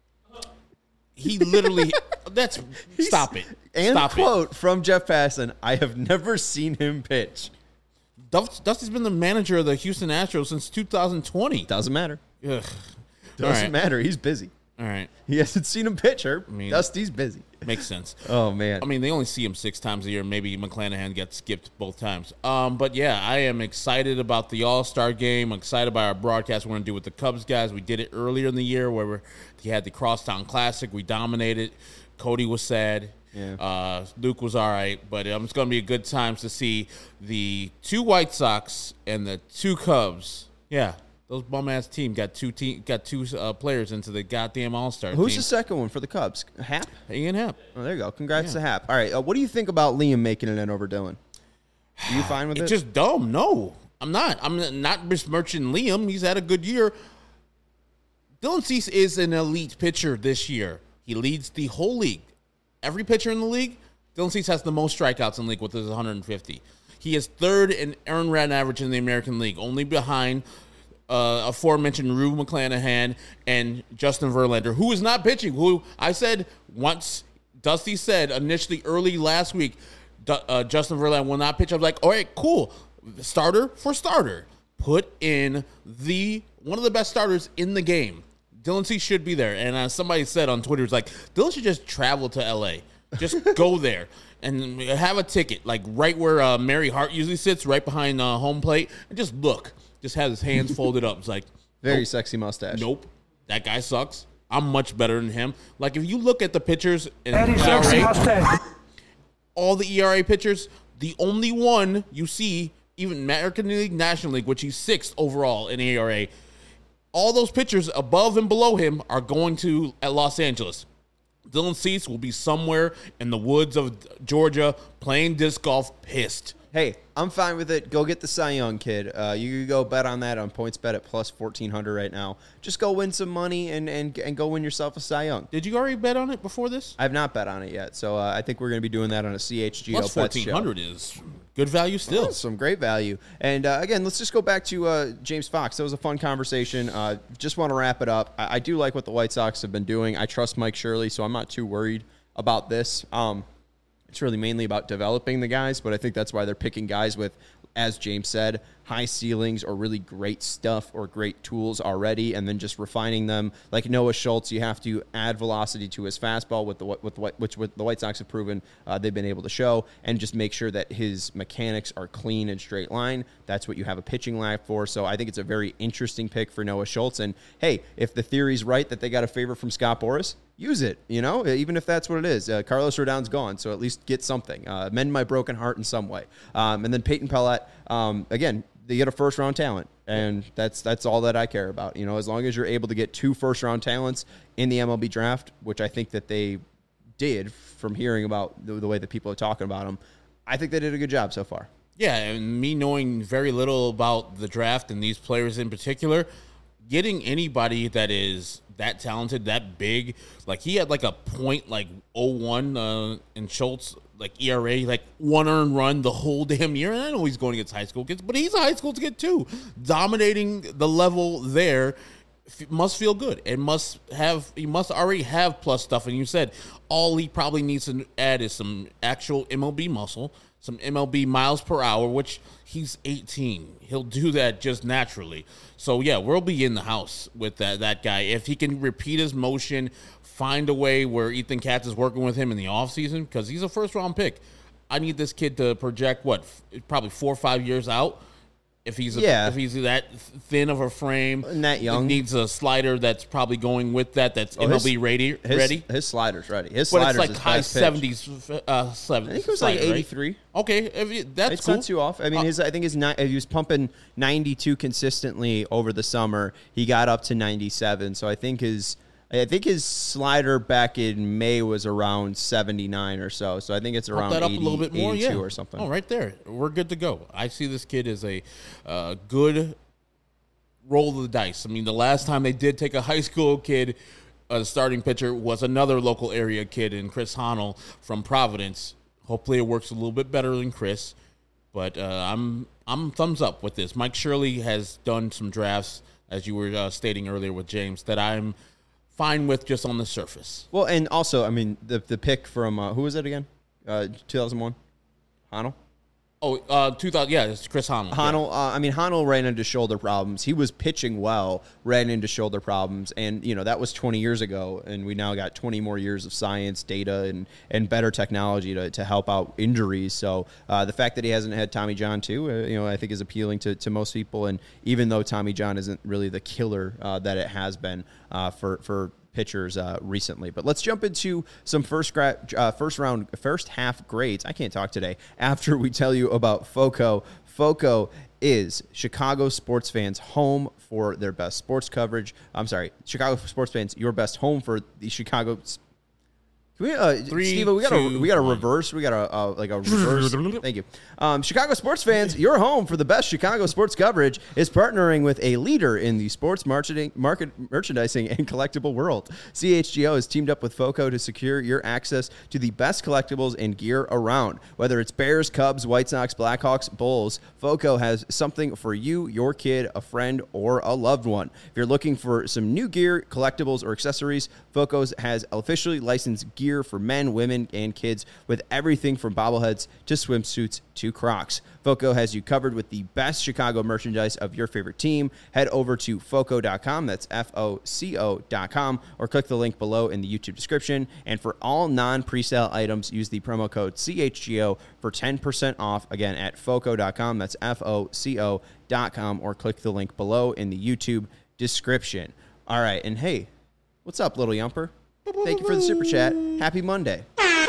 He literally stop it. And Stop quote from Jeff Passan, I have never seen him pitch. Dusty's been the manager of the Houston Astros since 2020. Doesn't matter. Ugh. Doesn't matter. He's busy. All right. He hasn't seen him pitch, Herb. mean- Dusty's busy. Makes sense. Oh, man. I mean, they only see him 6 times a year. Maybe McClanahan gets skipped both times. But, yeah, I am excited about the All-Star game. I'm excited about our broadcast we're going to do with the Cubs guys. We did it earlier in the year where he had the Crosstown Classic. We dominated. Cody was sad. Yeah. Luke was all right. But it's going to be a good time to see the 2 White Sox and the 2 Cubs. Yeah. Those bum-ass team got two players into the goddamn All-Star team. Who's the second one for the Cubs? Hap? Ian Happ. Oh, there you go. Congrats to Hap. All right. What do you think about Liam making it in over Dylan? Are you fine with it? It's just dumb. No, I'm not. I'm not besmirching Liam. He's had a good year. Dylan Cease is an elite pitcher this year. He leads the whole league. Every pitcher in the league, Dylan Cease has the most strikeouts in the league with his 150. He is 3rd in earned run average in the American League, only behind aforementioned Rue McClanahan and Justin Verlander, who is not pitching, who I said once Dusty said initially early last week, Justin Verlander will not pitch. I was like, all right, cool. Starter for starter. Put in one of the best starters in the game. Dylan Cease should be there. And somebody said on Twitter, it's like, Dylan should just travel to L.A. Just go there and have a ticket, like right where Mary Hart usually sits, right behind home plate, and just look. Just has his hands folded up. It's like, Very nope, sexy mustache. Nope. That guy sucks. I'm much better than him. Like, if you look at the pitchers in ERA, all the ERA pitchers, the only one you see, even American League, National League, which he's 6th overall in ERA, all those pitchers above and below him are going to Los Angeles. Dylan Cease will be somewhere in the woods of Georgia playing disc golf, pissed. Hey, I'm fine with it. Go get the Cy Young kid. You can go bet on that on PointsBet at plus 1,400 right now. Just go win some money and go win yourself a Cy Young. Did you already bet on it before this? I have not bet on it yet, so I think we're going to be doing that on a CHGO Plus Bets show. 1,400 is good value still. Well, some great value. And again, let's just go back to James Fox. That was a fun conversation. Just want to wrap it up. I do like what the White Sox have been doing. I trust Mike Shirley, so I'm not too worried about this. It's really mainly about developing the guys, but I think that's why they're picking guys with, as James said, high ceilings or really great stuff or great tools already, and then just refining them. Like Noah Schultz, you have to add velocity to his fastball, which the White Sox have proven they've been able to show, and just make sure that his mechanics are clean and straight line. That's what you have a pitching lab for. So I think it's a very interesting pick for Noah Schultz. And hey, if the theory's right that they got a favor from Scott Boras, use it, even if that's what it is. Carlos Rodon's gone, so at least get something. Mend my broken heart in some way. And then Peyton Pellett, again, they get a first-round talent, and that's all that I care about. As long as you're able to get 2 first-round talents in the MLB draft, which I think that they did from hearing about the way that people are talking about them, I think they did a good job so far. Yeah, and me knowing very little about the draft and these players in particular, getting anybody that is that talented, that big, like he had like a point like 0.01 in Schultz, like ERA, like 1 earned run the whole damn year. And I know he's going against high school kids, but he's a high school kid too, dominating the level there. must feel good. He must already have plus stuff. And you said all he probably needs to add is some actual MLB muscle, some MLB miles per hour, which he's 18. He'll do that just naturally. So yeah, we'll be in the house with that guy. If he can repeat his motion, find a way where Ethan Katz is working with him in the offseason, because he's a first-round pick. I need this kid to project, probably 4 or 5 years out. If he's that thin of a frame, and that young, he needs a slider that's probably going with that. That's MLB ready. His slider's ready. His but slider's it's like high 70s. I think it was like 83. Right? Okay, that's cool. Not too off. I mean, I think he was pumping 92 consistently over the summer. He got up to 97. So I think his slider back in May was around 79 or so. So I think it's around that up 80, a little bit more, 82 or something. Oh, right there. We're good to go. I see this kid as a good roll of the dice. I mean, the last time they did take a high school kid, the starting pitcher, was another local area kid in Chris Honnell from Providence. Hopefully it works a little bit better than Chris. But I'm thumbs up with this. Mike Shirley has done some drafts, as you were stating earlier with James, that I'm fine with just on the surface. Well, and also, I mean, the pick from, who was it again? 2001? Honnell? Oh, 2000. Yeah, it's Chris Honnell. Honnell. Yeah. Honnell ran into shoulder problems. He was pitching well, ran into shoulder problems, and that was 20 years ago. And we now got 20 more years of science, data, and better technology to help out injuries. So the fact that he hasn't had Tommy John too, I think is appealing to most people. And even though Tommy John isn't really the killer that it has been for pitchers recently. But let's jump into some first half grades. I can't talk today. After we tell you about FOCO. FOCO is Chicago sports fans' home for their best sports coverage. I'm sorry, Chicago sports fans, your best home for the Chicago. Can we, Steve, we got a reverse. We got a reverse. Thank you. Chicago sports fans, your home for the best Chicago sports coverage is partnering with a leader in the sports merchandising and collectible world. CHGO has teamed up with FOCO to secure your access to the best collectibles and gear around. Whether it's Bears, Cubs, White Sox, Blackhawks, Bulls, FOCO has something for you, your kid, a friend, or a loved one. If you're looking for some new gear, collectibles, or accessories, FOCO has officially licensed gear for men, women, and kids with everything from bobbleheads to swimsuits to Crocs. FOCO has you covered with the best Chicago merchandise of your favorite team. Head over to FOCO.com, that's FOCO.com, or click the link below in the YouTube description. And for all non-presale items, use the promo code CHGO for 10% off, again, at FOCO.com, that's FOCO.com, or click the link below in the YouTube description. All right, and hey, what's up, Little Yumper? Thank you for the super chat. Happy Monday.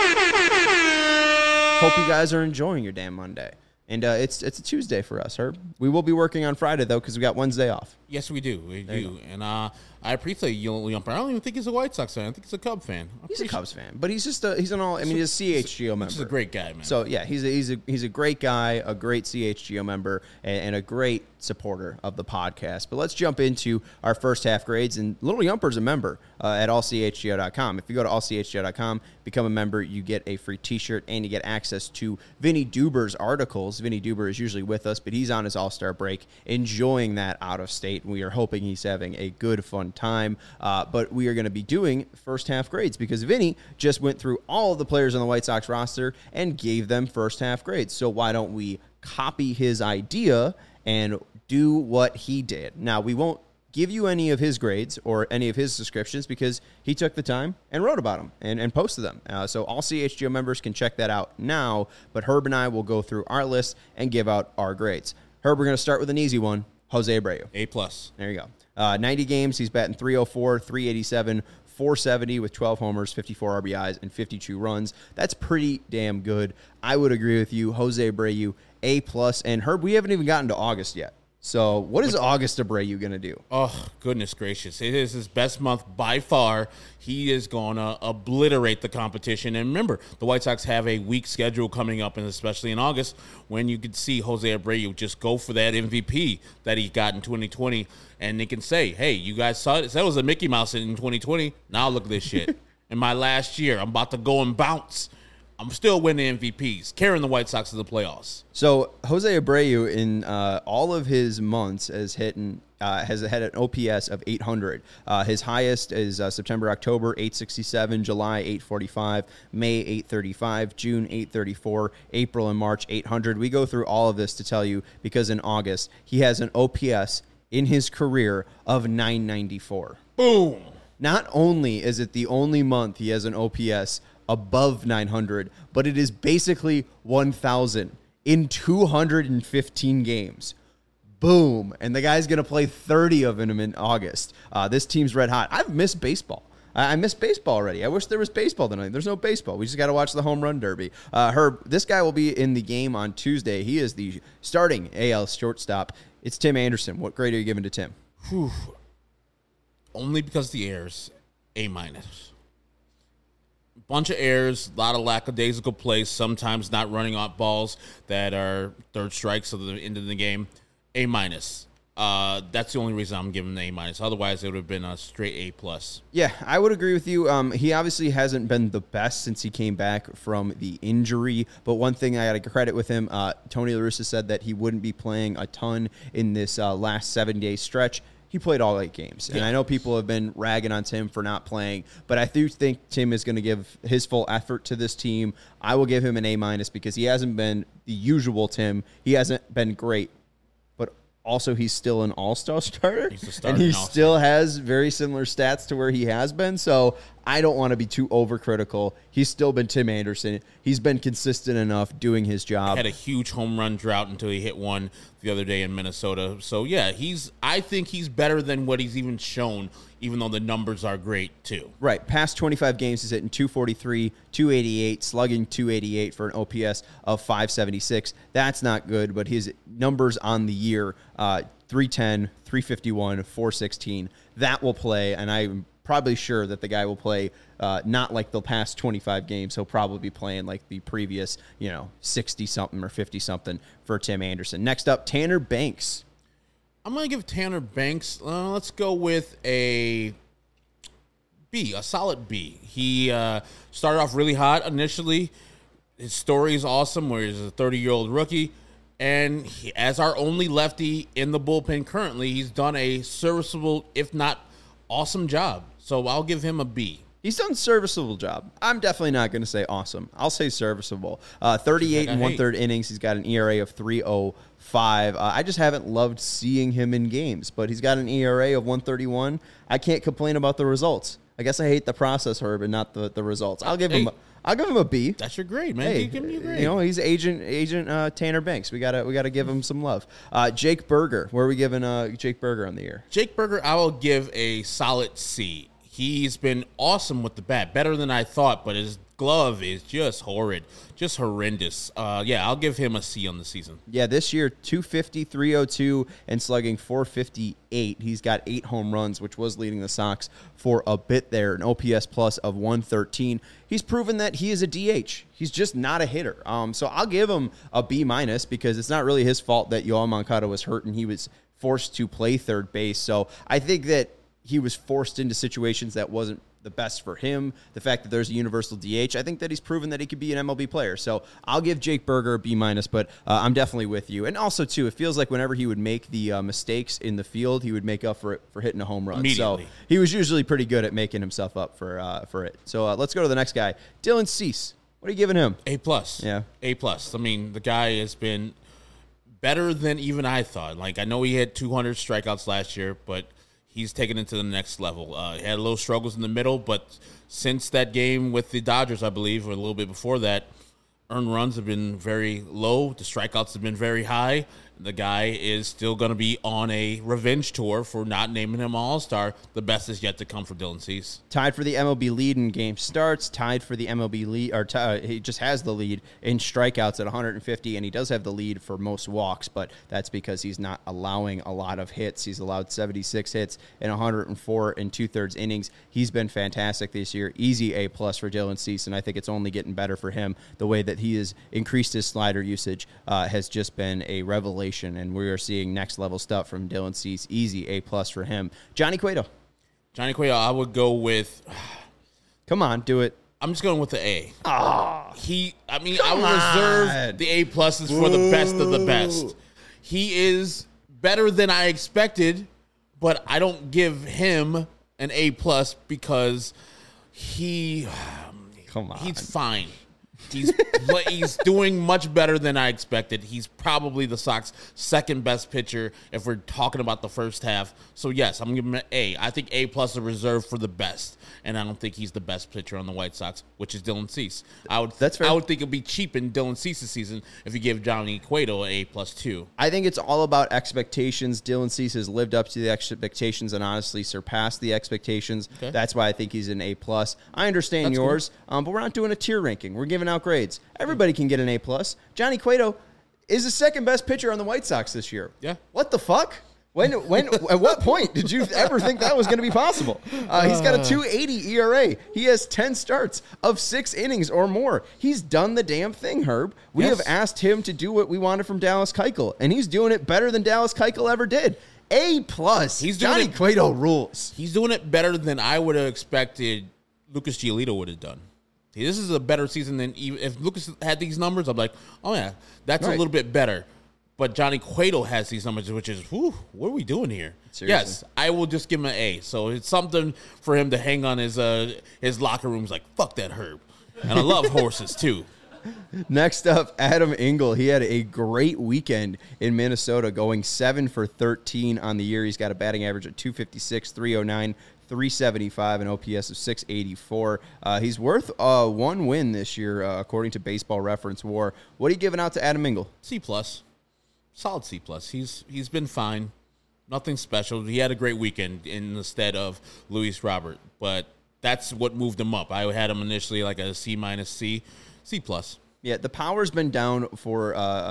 Hope you guys are enjoying your damn Monday. And it's a Tuesday for us, Herb. We will be working on Friday, though, because we got Wednesday off. Yes, we do. We do. And I appreciate you, Yumper. I don't even think he's a White Sox fan. I think he's a Cub fan. He's a Cubs fan, but he's just he's a CHGO member. He's a great guy, man. So yeah, he's a great guy, a great CHGO member, and a great supporter of the podcast. But let's jump into our first half grades. And Little Yumper's a member at allchgo.com. If you go to allchgo.com, become a member, you get a free T-shirt and you get access to Vinny Duber's articles. Vinny Duber is usually with us, but he's on his All-Star break, enjoying that out of state. And we are hoping he's having a good, fun time. But we are going to be doing first half grades because Vinny just went through all of the players on the White Sox roster and gave them first half grades. So why don't we copy his idea and do what he did? Now, we won't give you any of his grades or any of his descriptions because he took the time and wrote about them and posted them. So all CHGO members can check that out now, but Herb and I will go through our list and give out our grades. Herb, we're going to start with an easy one. Jose Abreu. A+. There you go. 90 games, he's batting .304, .387, .470 with 12 homers, 54 RBIs, and 52 runs. That's pretty damn good. I would agree with you. Jose Abreu, A+. And Herb, we haven't even gotten to August yet. So what is August Abreu going to do? Oh, goodness gracious. It is his best month by far. He is going to obliterate the competition. And remember, the White Sox have a weak schedule coming up, and especially in August, when you could see Jose Abreu just go for that MVP that he got in 2020. And they can say, hey, you guys saw it. That was a Mickey Mouse in 2020. Now look at this shit. In my last year, I'm about to go and bounce. I'm still winning MVPs, carrying the White Sox to the playoffs. So Jose Abreu in all of his months has had an OPS of 800. His highest is September, October, 867, July, 845, May, 835, June, 834, April and March, 800. We go through all of this to tell you because in August, he has an OPS in his career of 994. Boom. Not only is it the only month he has an OPS above 900, but it is basically 1,000 in 215 games. Boom. And the guy's going to play 30 of them in August. This team's red hot. I've missed baseball. I miss baseball already. I wish there was baseball tonight. There's no baseball. We just got to watch the home run derby. Herb, this guy will be in the game on Tuesday. He is the starting AL shortstop. It's Tim Anderson. What grade are you giving to Tim? Whew. Only because the errors, A-. Bunch of errors, a lot of lackadaisical plays, sometimes not running out balls that are third strikes at the end of the game. A-. That's the only reason I'm giving an A-. Otherwise, it would have been a straight A+. Yeah, I would agree with you. He obviously hasn't been the best since he came back from the injury. But one thing I got to credit with him, Tony La Russa said that he wouldn't be playing a ton in this last 7-day stretch. He played all 8 games. And I know people have been ragging on Tim for not playing, but I do think Tim is going to give his full effort to this team. I will give him an A- because he hasn't been the usual Tim. He hasn't been great. But also, he's still an all-star starter. He's a starter and he all-star. still has very similar stats to where he has been. So I don't want to be too overcritical. He's still been Tim Anderson. He's been consistent enough doing his job. Had a huge home run drought until he hit one the other day in Minnesota. So, yeah, I think he's better than what he's even shown, even though the numbers are great, too. Right. Past 25 games, he's hitting 243, 288, slugging 288 for an OPS of 576. That's not good, but his numbers on the year, 310, 351, 416, that will play, and I'm probably sure that the guy will play not like the past 25 games. He'll probably be playing like the previous, 60-something or 50-something for Tim Anderson. Next up, Tanner Banks. I'm going to give Tanner Banks, let's go with a B, a solid B. He started off really hot initially. His story is awesome, where he's a 30-year-old rookie. And as our only lefty in the bullpen currently, he's done a serviceable, if not awesome job. So I'll give him a B. He's done a serviceable job. I'm definitely not going to say awesome. I'll say serviceable. 38 and one-third innings. He's got an ERA of 3.05. I just haven't loved seeing him in games, but he's got an ERA of 1.31. I can't complain about the results. I guess I hate the process, Herb, and not the results. I'll give him a B. That's your grade, man. Hey, Give me a grade. He's agent Tanner Banks. We gotta give him some love. Jake Berger. Where are we giving Jake Berger on the year? Jake Berger, I will give a solid C. He's been awesome with the bat, better than I thought, but his glove is just horrid, just horrendous. I'll give him a C on the season. Yeah, this year, 250, 302, and slugging 458. He's got 8 home runs, which was leading the Sox for a bit there, an OPS plus of 113. He's proven that he is a DH. He's just not a hitter. So I'll give him a B- because it's not really his fault that Yoel Moncada was hurt and he was forced to play third base. So I think that he was forced into situations that wasn't the best for him. The fact that there's a universal DH, I think that he's proven that he could be an MLB player. So I'll give Jake Berger a B-, but I'm definitely with you. And also, too, it feels like whenever he would make the mistakes in the field, he would make up for it for hitting a home run. Immediately. So he was usually pretty good at making himself up for it. So let's go to the next guy, Dylan Cease. What are you giving him? A+. Yeah. A+. I mean, the guy has been better than even I thought. Like, I know he had 200 strikeouts last year, but he's taken it to the next level. He had a little struggles in the middle, but since that game with the Dodgers, I believe, or a little bit before that, earned runs have been very low. The strikeouts have been very high. The guy is still going to be on a revenge tour for not naming him All-Star. The best is yet to come for Dylan Cease. Tied for the MLB lead in game starts. Tied for the MLB lead, he just has the lead in strikeouts at 150, and he does have the lead for most walks, but that's because he's not allowing a lot of hits. He's allowed 76 hits in 104 and 2/3 innings. He's been fantastic this year. Easy A+ for Dylan Cease, and I think it's only getting better for him. The way that he has increased his slider usage has just been a revelation. And we are seeing next level stuff from Dylan Cease. Easy A+ for him. Johnny Cueto. Johnny Cueto, I would go with... Come on, do it. I'm just going with the A. Ah, I will reserve the A pluses for the best of the best. He is better than I expected, but I don't give him an A plus because he's fine. He's doing much better than I expected. He's probably the Sox' second best pitcher if we're talking about the first half. So yes, I'm giving him an A. I think A plus is reserved for the best, and I don't think he's the best pitcher on the White Sox, which is Dylan Cease. That's fair. I would think it'd be cheap in Dylan Cease's season if you gave Johnny Cueto an A plus too. I think it's all about expectations. Dylan Cease has lived up to the expectations and honestly surpassed the expectations. Okay. That's why I think he's an A plus. I understand That's yours, but we're not doing a tier ranking. We're giving out grades. Everybody can get an A plus. Johnny Cueto is the second best pitcher on the White Sox this year. Yeah. What the fuck? When at what point did you ever think that was going to be possible? He's got a 2.80 ERA. He has 10 starts of 6 innings or more. He's done the damn thing, Herb. We Yes. have asked him to do what we wanted from Dallas Keuchel, and he's doing it better than Dallas Keuchel ever did. A plus. He's doing Johnny it- Cueto rules. He's doing it better than I would have expected Lucas Giolito would have done. See, this is a better season than even if Lucas had these numbers. I'm like, oh yeah, that's Right. a little bit better. But Johnny Cueto has these numbers, which is, whew, what are we doing here? Seriously. Yes, I will just give him an A. So it's something for him to hang on his locker room. He's like, fuck that Herb. And I love horses too. Next up, Adam Engel. He had a great weekend in Minnesota, going 7 for 13 on the year. He's got a batting average of 256, 309, 375, an OPS of 684. He's worth one win this year, according to Baseball Reference WAR. What are you giving out to Adam Engel? C plus, solid C plus. He's been fine, nothing special. He had a great weekend instead of Luis Robert, but that's what moved him up. I had him initially like a C minus C plus. Yeah, the power's been down for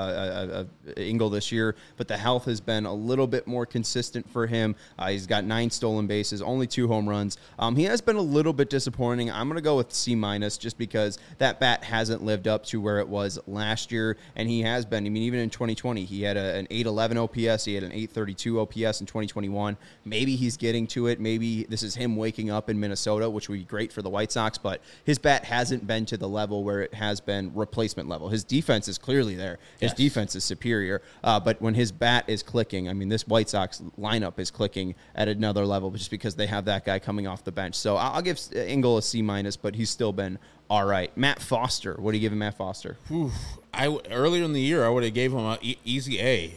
Engel this year, but the health has been a little bit more consistent for him. He's got 9 stolen bases, only 2 home runs. He has been a little bit disappointing. I'm going to go with C minus just because that bat hasn't lived up to where it was last year, and he has been. I mean, even in 2020, he had an 811 OPS. He had an 832 OPS in 2021. Maybe he's getting to it. Maybe this is him waking up in Minnesota, which would be great for the White Sox, but his bat hasn't been to the level where it has been replacement level. His defense is clearly there. His defense is superior. But when his bat is clicking, I mean, this White Sox lineup is clicking at another level just because they have that guy coming off the bench. So I'll give Engel a C minus, but he's still been all right. Matt Foster. What are you giving Matt Foster? Earlier in the year, I would have gave him an easy A.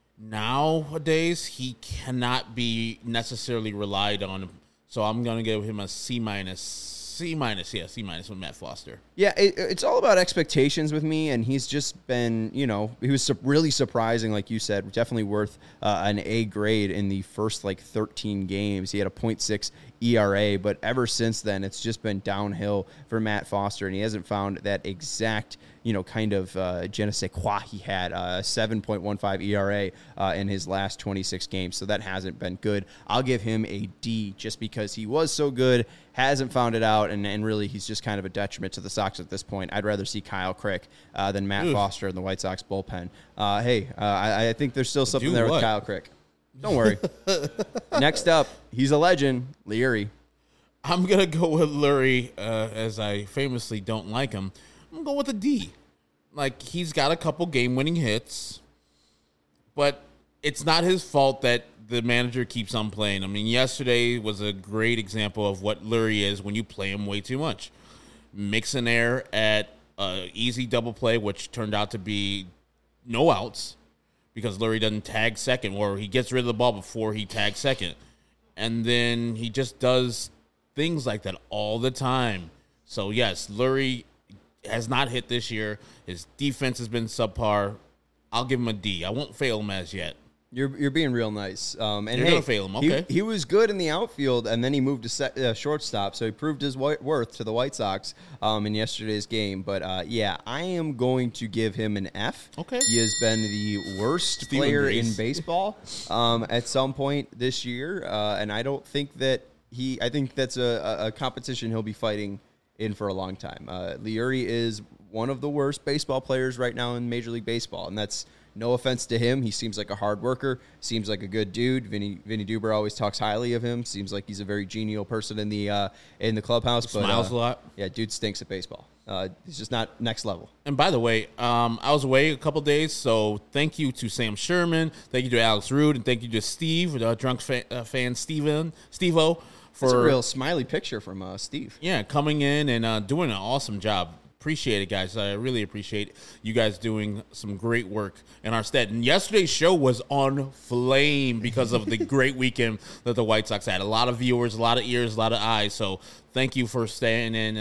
Nowadays, he cannot be necessarily relied on. So I'm going to give him a C minus. C minus with Matt Foster. Yeah, it's all about expectations with me, and he's just been, he was really surprising, like you said, definitely worth an A grade in the first, 13 games. He had a 0.6 ERA, but ever since then, it's just been downhill for Matt Foster, and he hasn't found that exact, kind of je ne sais quoi he had, 7.15 ERA in his last 26 games, so that hasn't been good. I'll give him a D just because he was so good, hasn't found it out, and really he's just kind of a detriment to the Sox at this point. I'd rather see Kyle Crick than Matt Foster in the White Sox bullpen. I think there's still something there with Kyle Crick. Don't worry. Next up, he's a legend, Leury. I'm going to go with Leury, as I famously don't like him. I'm going to go with a D. He's got a couple game-winning hits, but it's not his fault that the manager keeps on playing. I mean, yesterday was a great example of what Leury is when you play him way too much. Mix an error at easy double play, which turned out to be no outs because Leury doesn't tag second, or he gets rid of the ball before he tags second. And then he just does things like that all the time. So, yes, Leury has not hit this year. His defense has been subpar. I'll give him a D. I won't fail him as yet. You're being real nice. And You're gonna fail him, okay? He was good in the outfield, and then he moved to shortstop, so he proved his worth to the White Sox in yesterday's game. But I am going to give him an F. Okay. He has been the worst Steven player Grace. in baseball at some point this year, and I don't think that I think that's a competition he'll be fighting in for a long time. Leury is one of the worst baseball players right now in Major League Baseball, and that's no offense to him. He seems like a hard worker, seems like a good dude. Vinny Duber always talks highly of him. Seems like he's a very genial person in the clubhouse. Smiles a lot. Yeah, dude stinks at baseball. He's just not next level. And by the way, I was away a couple days, so thank you to Sam Sherman, thank you to Alex Rude, and thank you to Steve, drunk fan Steve-O. It's a real smiley picture from Steve. Yeah, coming in and doing an awesome job. Appreciate it, guys. I really appreciate you guys doing some great work in our stead. And yesterday's show was on flame because of the great weekend that the White Sox had. A lot of viewers, a lot of ears, a lot of eyes. So thank you for standing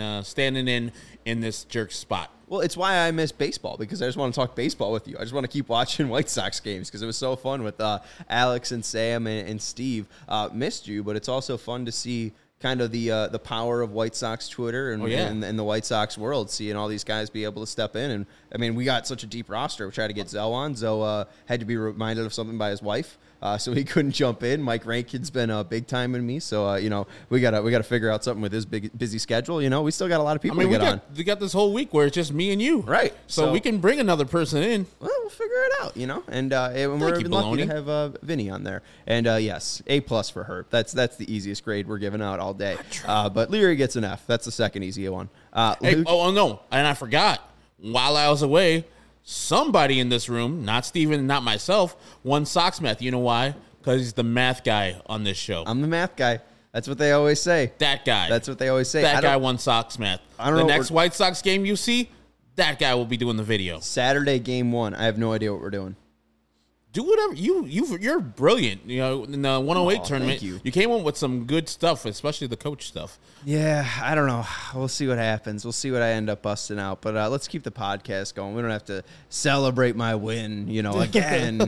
in this jerk spot. Well, it's why I miss baseball, because I just want to talk baseball with you. I just want to keep watching White Sox games because it was so fun with Alex and Sam and Steve. Missed you, but it's also fun to see kind of the power of White Sox Twitter and the White Sox world, seeing all these guys be able to step in. And, I mean, we got such a deep roster. We tried to get Zoe on. Zoe had to be reminded of something by his wife, so he couldn't jump in. Mike Rankin's been big time in me, so we gotta figure out something with his busy schedule. We still got a lot of people to get on. We got this whole week where it's just me and you, right? So we can bring another person in. Well, we'll figure it out, And we're lucky to have Vinny on there. And yes, A+ for Herb. That's the easiest grade we're giving out all day. But Leary gets an F. That's the second easy one. No, and I forgot. While I was away, somebody in this room, not Steven, not myself, won Sox math. You know why? Because he's the math guy on this show. I'm the math guy. That's what they always say. That guy. That's what they always say. That guy won Sox math. The next White Sox game you see, that guy will be doing the video. Saturday, game 1. I have no idea what we're doing. Do whatever you're brilliant. In the 108 tournament, you came up with some good stuff, especially the coach stuff. Yeah, I don't know. We'll see what happens. We'll see what I end up busting out. But let's keep the podcast going. We don't have to celebrate my win, again.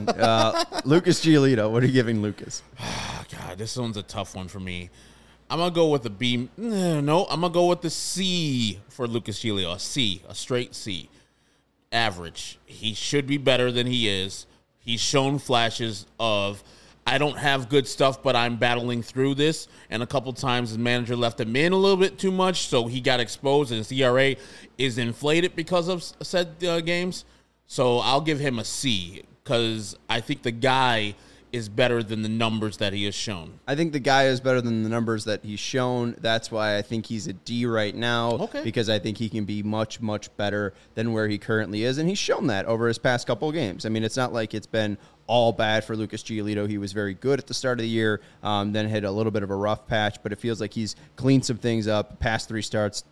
Lucas Giolito, what are you giving Lucas? God, this one's a tough one for me. I'm gonna go with a B. No, I'm gonna go with the C for Lucas Giolito. A C, a straight C. Average. He should be better than he is. He's shown flashes of, I don't have good stuff, but I'm battling through this. And a couple times his manager left him in a little bit too much, so he got exposed, and his ERA is inflated because of said games. So I'll give him a C, because I think the guy is better than the numbers that he has shown. I think the guy is better than the numbers that he's shown. That's why I think he's a D right now, because I think he can be much, much better than where he currently is, and he's shown that over his past couple of games. I mean, it's not like it's been all bad for Lucas Giolito. He was very good at the start of the year, then hit a little bit of a rough patch, but it feels like he's cleaned some things up. Past 3 starts,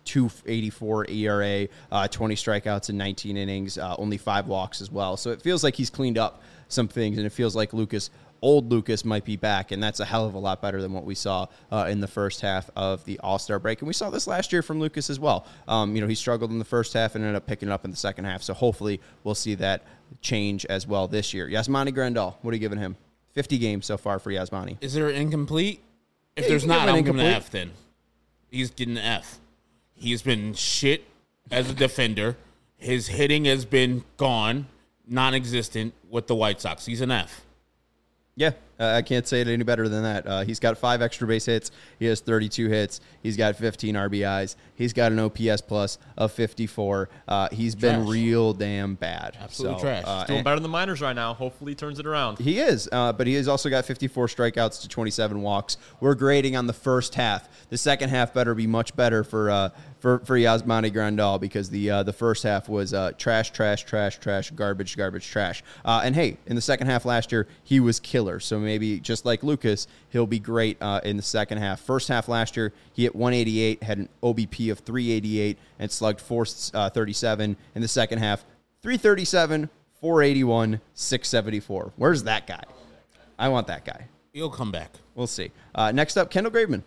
2.84 ERA, 20 strikeouts in 19 innings, only 5 walks as well. So it feels like he's cleaned up some things, and it feels like old Lucas might be back, and that's a hell of a lot better than what we saw in the first half of the All-Star break. And we saw this last year from Lucas as well. He struggled in the first half and ended up picking it up in the second half. So hopefully we'll see that change as well this year. Yasmani Grandal, what are you giving him? 50 games so far for Yasmani. Is there an incomplete? If there's not, I'm giving an F then. He's getting an F. He's been shit as a defender. His hitting has been gone, non-existent with the White Sox. He's an F. Yeah, I can't say it any better than that. He's got 5 extra base hits. He has 32 hits. He's got 15 RBIs. He's got an OPS plus of 54. He's been real damn bad. Absolutely trash. He's doing better than the minors right now. Hopefully he turns it around. He is, but he has also got 54 strikeouts to 27 walks. We're grading on the first half. The second half better be much better for Yasmani Grandal, because the first half was trash, garbage, trash. And hey, in the second half last year, he was killer. So maybe just like Lucas, he'll be great in the second half. First half last year, he hit 188, had an OBP of 388, and slugged 437. In the second half, 337, 481, 674. Where's that guy? I want that guy. He'll come back. We'll see. Next up, Kendall Graveman.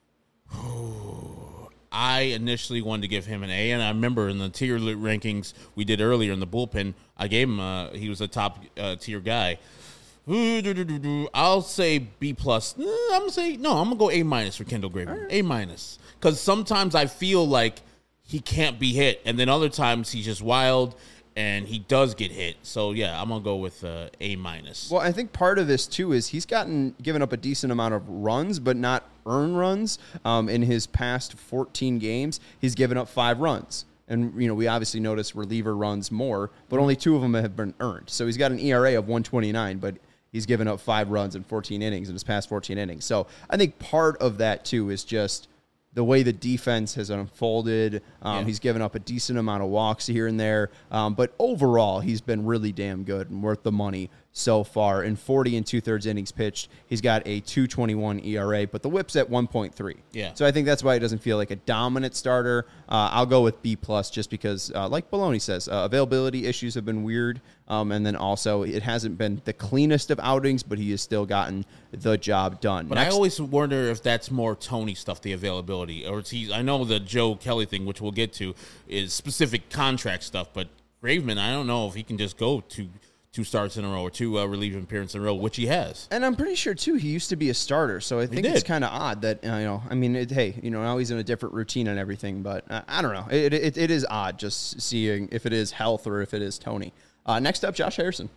I initially wanted to give him an A, and I remember in the tier rankings we did earlier in the bullpen, I gave him he was a top tier guy. I'll say B+. I'm gonna go A- for Kendall Graveman. Right. A-, because sometimes I feel like he can't be hit, and then other times he's just wild and he does get hit. So yeah, I'm gonna go with A-. Well, I think part of this too is he's given up a decent amount of runs, but not earned runs. In his past 14 games, he's given up 5 runs. And, we obviously notice reliever runs more, but only 2 of them have been earned. So he's got an ERA of 1.29, but he's given up 5 runs in 14 innings in his past 14 innings. So I think part of that, too, is just the way the defense has unfolded. He's given up a decent amount of walks here and there. But overall, he's been really damn good and worth the money so far. In 40 and 2/3 innings pitched, he's got a 2.21 ERA, but the whip's at 1.3. Yeah. So I think that's why it doesn't feel like a dominant starter. I'll go with B+ just because, like Baloney says, availability issues have been weird. And then also, it hasn't been the cleanest of outings, but he has still gotten the job done. But I always wonder if that's more Tony stuff, the availability, or I know the Joe Kelly thing, which we'll get to, is specific contract stuff. But Graveman, I don't know if he can just go to 2 starts in a row or 2 relief appearances in a row, which he has. And I'm pretty sure, too, he used to be a starter. So I think it's kind of odd that, now he's in a different routine and everything. But I don't know. It is odd just seeing if it is health or if it is Tony. Next up, Josh Harrison.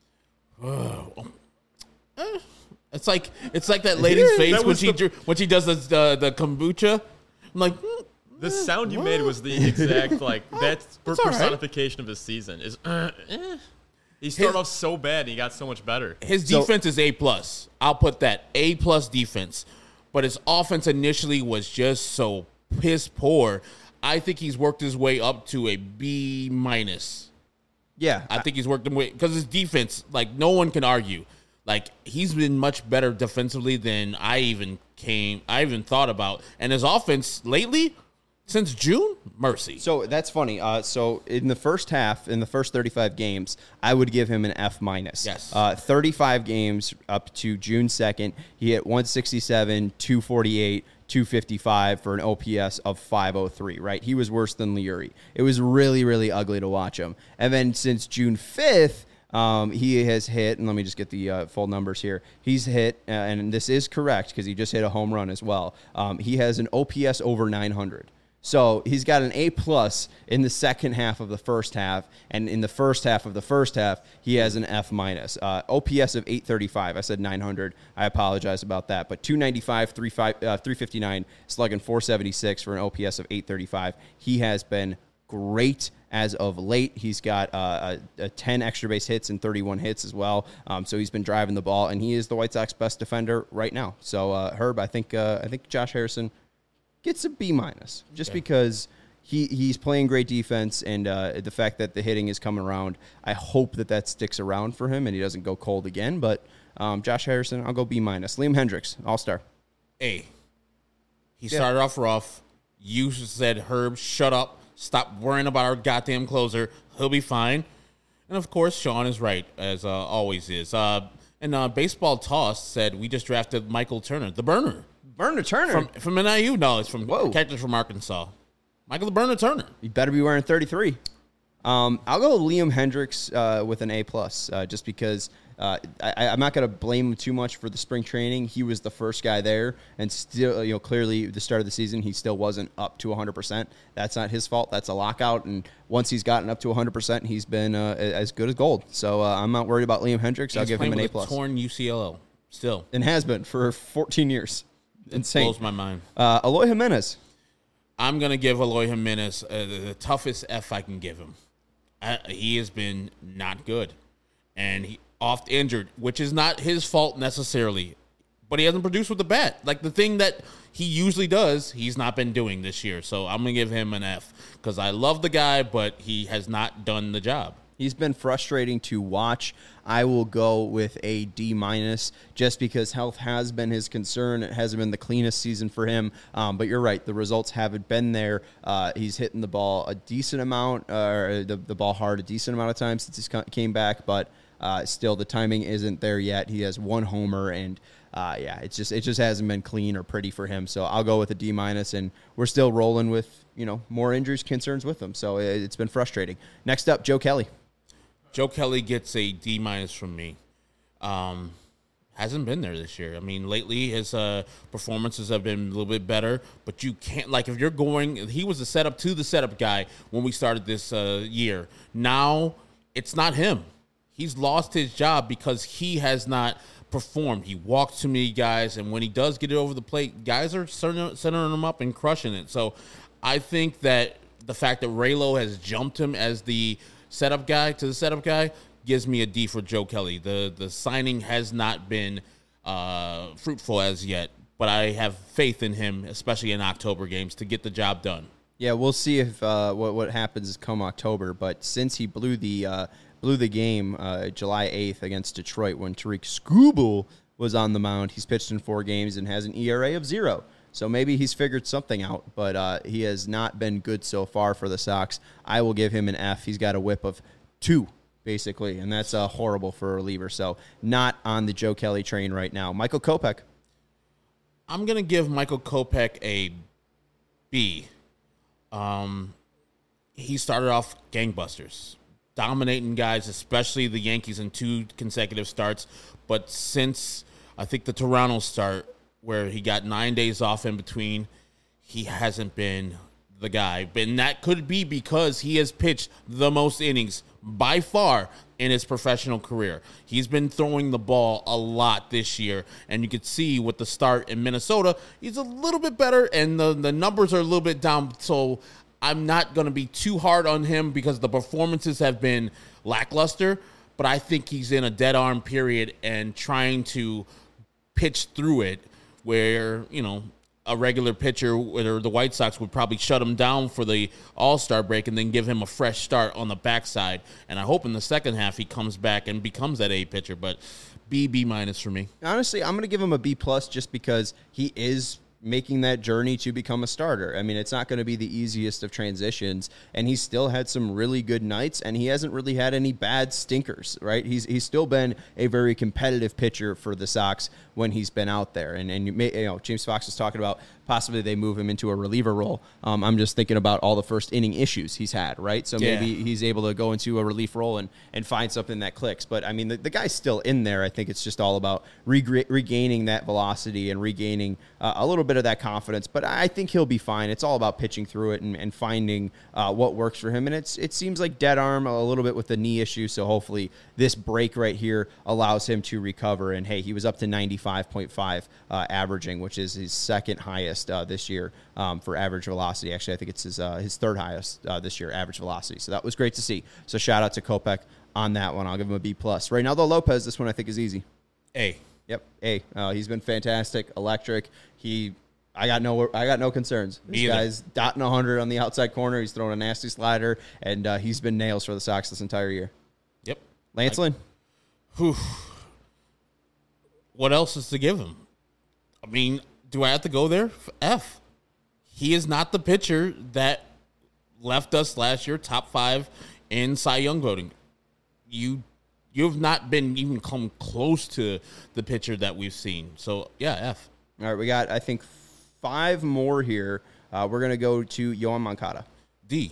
It's like that lady's face when she does the kombucha. I'm like, the sound you made was the exact that's personification of his season. He started off so bad, and he got so much better. His defense is A+. I'll put that A+ defense, but his offense initially was just so piss poor. I think he's worked his way up to a B-. Yeah, I think he's worked his way because his defense, no one can argue. He's been much better defensively than I even thought about. And his offense lately, since June, mercy. So that's funny. So in the first half, in the first 35 games, I would give him an F-. Yes. 35 games up to June 2nd, he hit 167, 248, 255 for an OPS of 503, right? He was worse than Leury. It was really, really ugly to watch him. And then since June 5th, he has hit, and let me just get the full numbers here. He's hit, and this is correct because he just hit a home run as well. He has an OPS over 900. So he's got an A+ in the second half of the first half, and in the first half of the first half, he has an F-. OPS of 835. I said 900. I apologize about that. But 295, 359, slugging 476 for an OPS of 835. He has been great as of late. He's got 10 extra base hits and 31 hits as well. So he's been driving the ball, and he is the White Sox best defender right now. So Herb, I think Josh Harrison gets a B- just because he's playing great defense, and the fact that the hitting is coming around. I hope that sticks around for him and he doesn't go cold again. But Josh Harrison, I'll go B-. Liam Hendriks, All-Star. A. He started off rough. You said, Herb, shut up. Stop worrying about our goddamn closer. He'll be fine. And, of course, Sean is right, as always is. And Baseball Toss said we just drafted Michael Turner, the burner. Burner Turner? From NIU? No, it's from catcher from Arkansas. Michael the Burner Turner. You better be wearing 33. I'll go Liam Hendriks with an A+, just because I'm not going to blame him too much for the spring training. He was the first guy there, and still, clearly the start of the season, he still wasn't up to 100%. That's not his fault. That's a lockout, and once he's gotten up to 100%, he's been as good as gold. So I'm not worried about Liam Hendriks. I'll give him an A+. Torn UCLO, still. And has been for 14 years. Insane. Blows my mind. Eloy Jimenez. I'm going to give Eloy Jimenez the toughest F I can give him. He has been not good. And he oft injured, which is not his fault necessarily. But he hasn't produced with the bat. The thing that he usually does, he's not been doing this year. So I'm going to give him an F. Because I love the guy, but he has not done the job. He's been frustrating to watch. I will go with a D- just because health has been his concern. It hasn't been the cleanest season for him. But you're right. The results haven't been there. He's hitting the ball a decent amount, or the ball hard a decent amount of times since he came back. But still, the timing isn't there yet. He has 1 homer, and it just hasn't been clean or pretty for him. So I'll go with a D-, and we're still rolling with more injuries concerns with him. So it's been frustrating. Next up, Joe Kelly. Joe Kelly gets a D- from me. Hasn't been there this year. I mean, lately his performances have been a little bit better, but you can't, if you're going, he was the setup guy when we started this year. Now it's not him. He's lost his job because he has not performed. He walks too many guys, and when he does get it over the plate, guys are centering him up and crushing it. So I think that the fact that Raylo has jumped him as the setup guy gives me a D for Joe Kelly. The signing has not been fruitful as yet, but I have faith in him, especially in October games, to get the job done. Yeah, we'll see if what happens come October. But since he blew the game July 8th against Detroit when Tariq Skubal was on the mound, he's pitched in 4 games and has an ERA of 0. So maybe he's figured something out, but he has not been good so far for the Sox. I will give him an F. He's got a whip of 2, basically, and that's horrible for a reliever. So not on the Joe Kelly train right now. Michael Kopech. I'm going to give Michael Kopech a B. He started off gangbusters, dominating guys, especially the Yankees in 2 consecutive starts. But since I think the Toronto start, where he got 9 days off in between, he hasn't been the guy. And that could be because he has pitched the most innings by far in his professional career. He's been throwing the ball a lot this year, and you could see with the start in Minnesota, he's a little bit better, and the numbers are a little bit down. So I'm not going to be too hard on him because the performances have been lackluster, but I think he's in a dead arm period and trying to pitch through it where, a regular pitcher or the White Sox would probably shut him down for the All-Star break and then give him a fresh start on the backside. And I hope in the second half he comes back and becomes that A pitcher, but B minus for me. Honestly, I'm going to give him a B+ just because he is making that journey to become a starter. I mean, it's not going to be the easiest of transitions, and he's still had some really good nights, and he hasn't really had any bad stinkers, right? He's still been a very competitive pitcher for the Sox when he's been out there. And James Fox was talking about possibly they move him into a reliever role. I'm just thinking about all the first inning issues he's had, right? So maybe he's able to go into a relief role and find something that clicks. But, I mean, the guy's still in there. I think it's just all about regaining that velocity and regaining a little bit of that confidence. But I think he'll be fine. It's all about pitching through it and finding what works for him. And it seems like dead arm a little bit with the knee issue. So hopefully this break right here allows him to recover. And, hey, he was up to 95.5 averaging, which is his second highest this year for average velocity. Actually, I think it's his third highest this year, average velocity. So that was great to see. So shout out to Kopech on that one. I'll give him a B+. Reynaldo Lopez, this one I think is easy. A. Yep, A. He's been fantastic, electric. I got no concerns. This guy's dotting 100 on the outside corner. He's throwing a nasty slider, and he's been nails for the Sox this entire year. Yep. Lance Lynn. What else is to give him? I mean, do I have to go there? F. He is not the pitcher that left us last year top 5 in Cy Young voting. You've not been even come close to the pitcher that we've seen. So, yeah, F. All right, we got, I think, 5 more here. We're going to go to Yoan Moncada. D.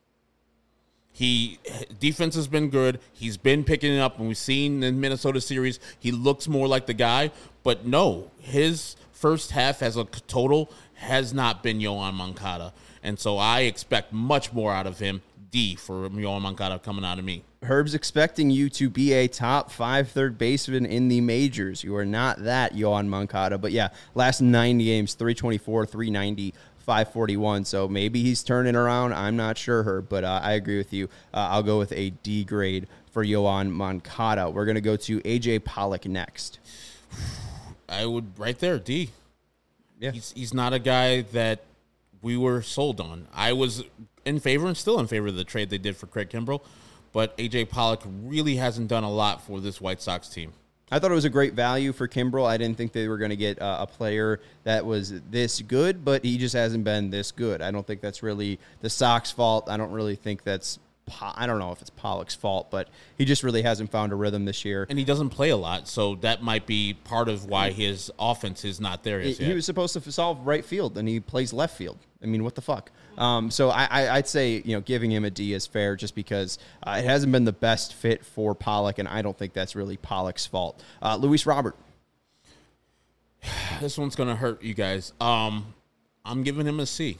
Defense has been good. He's been picking it up. When we've seen in Minnesota series, he looks more like the guy. But no, his first half as a total has not been Yoan Moncada. And so I expect much more out of him. D for Yoan Moncada coming out of me. Herb's expecting you to be a top 5 third baseman in the majors. You are not that, Yoan Moncada. But yeah, last 9 games, 324, 390, 541. So maybe he's turning around. I'm not sure, Herb, but I agree with you. I'll go with a D grade for Yoan Moncada. We're going to go to A.J. Pollock next. I would right there, D. Yeah. He's not a guy that we were sold on. I was in favor and still in favor of the trade they did for Craig Kimbrell, but A.J. Pollock really hasn't done a lot for this White Sox team. I thought it was a great value for Kimbrell. I didn't think they were going to get a player that was this good, but he just hasn't been this good. I don't think that's really the Sox fault. I don't really think that's I don't know if it's Pollock's fault, but he just really hasn't found a rhythm this year. And he doesn't play a lot, so that might be part of why his offense is not there yet. He was supposed to solve right field, and he plays left field. I mean, what the fuck? So I'd say, giving him a D is fair just because it hasn't been the best fit for Pollock, and I don't think that's really Pollock's fault. Luis Robert. This one's going to hurt you guys. I'm giving him a C.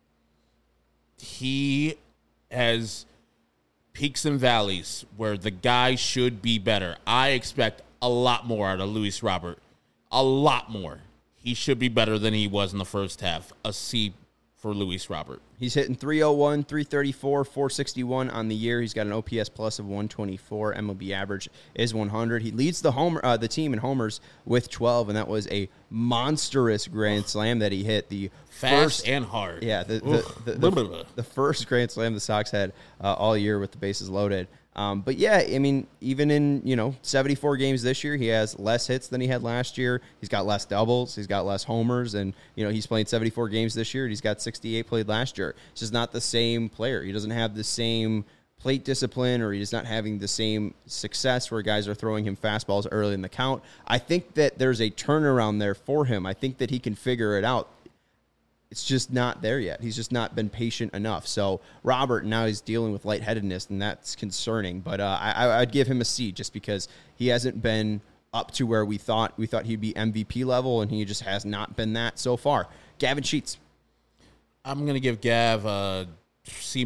He has peaks and valleys where the guy should be better. I expect a lot more out of Luis Robert. A lot more. He should be better than he was in the first half. A C for Luis Robert. He's hitting 301, 334, 461 on the year. He's got an OPS plus of 124. MLB average is 100. He leads the team in homers with 12, and that was a monstrous grand slam that he hit. The Fast and hard. Yeah, the first grand slam the Sox had all year with the bases loaded. But yeah, I mean, even in 74 games this year, he has less hits than he had last year. He's got less doubles, he's got less homers, and he's playing 74 games this year. And he's got 68 played last year. It's just not the same player. He doesn't have the same plate discipline, or he's not having the same success where guys are throwing him fastballs early in the count. I think that there's a turnaround there for him. I think that he can figure it out. It's just not there yet. He's just not been patient enough. So Robert, now he's dealing with lightheadedness, and that's concerning. But I'd give him a C just because he hasn't been up to where we thought he'd be MVP level, and he just has not been that so far. Gavin Sheets. I'm going to give Gav a C-.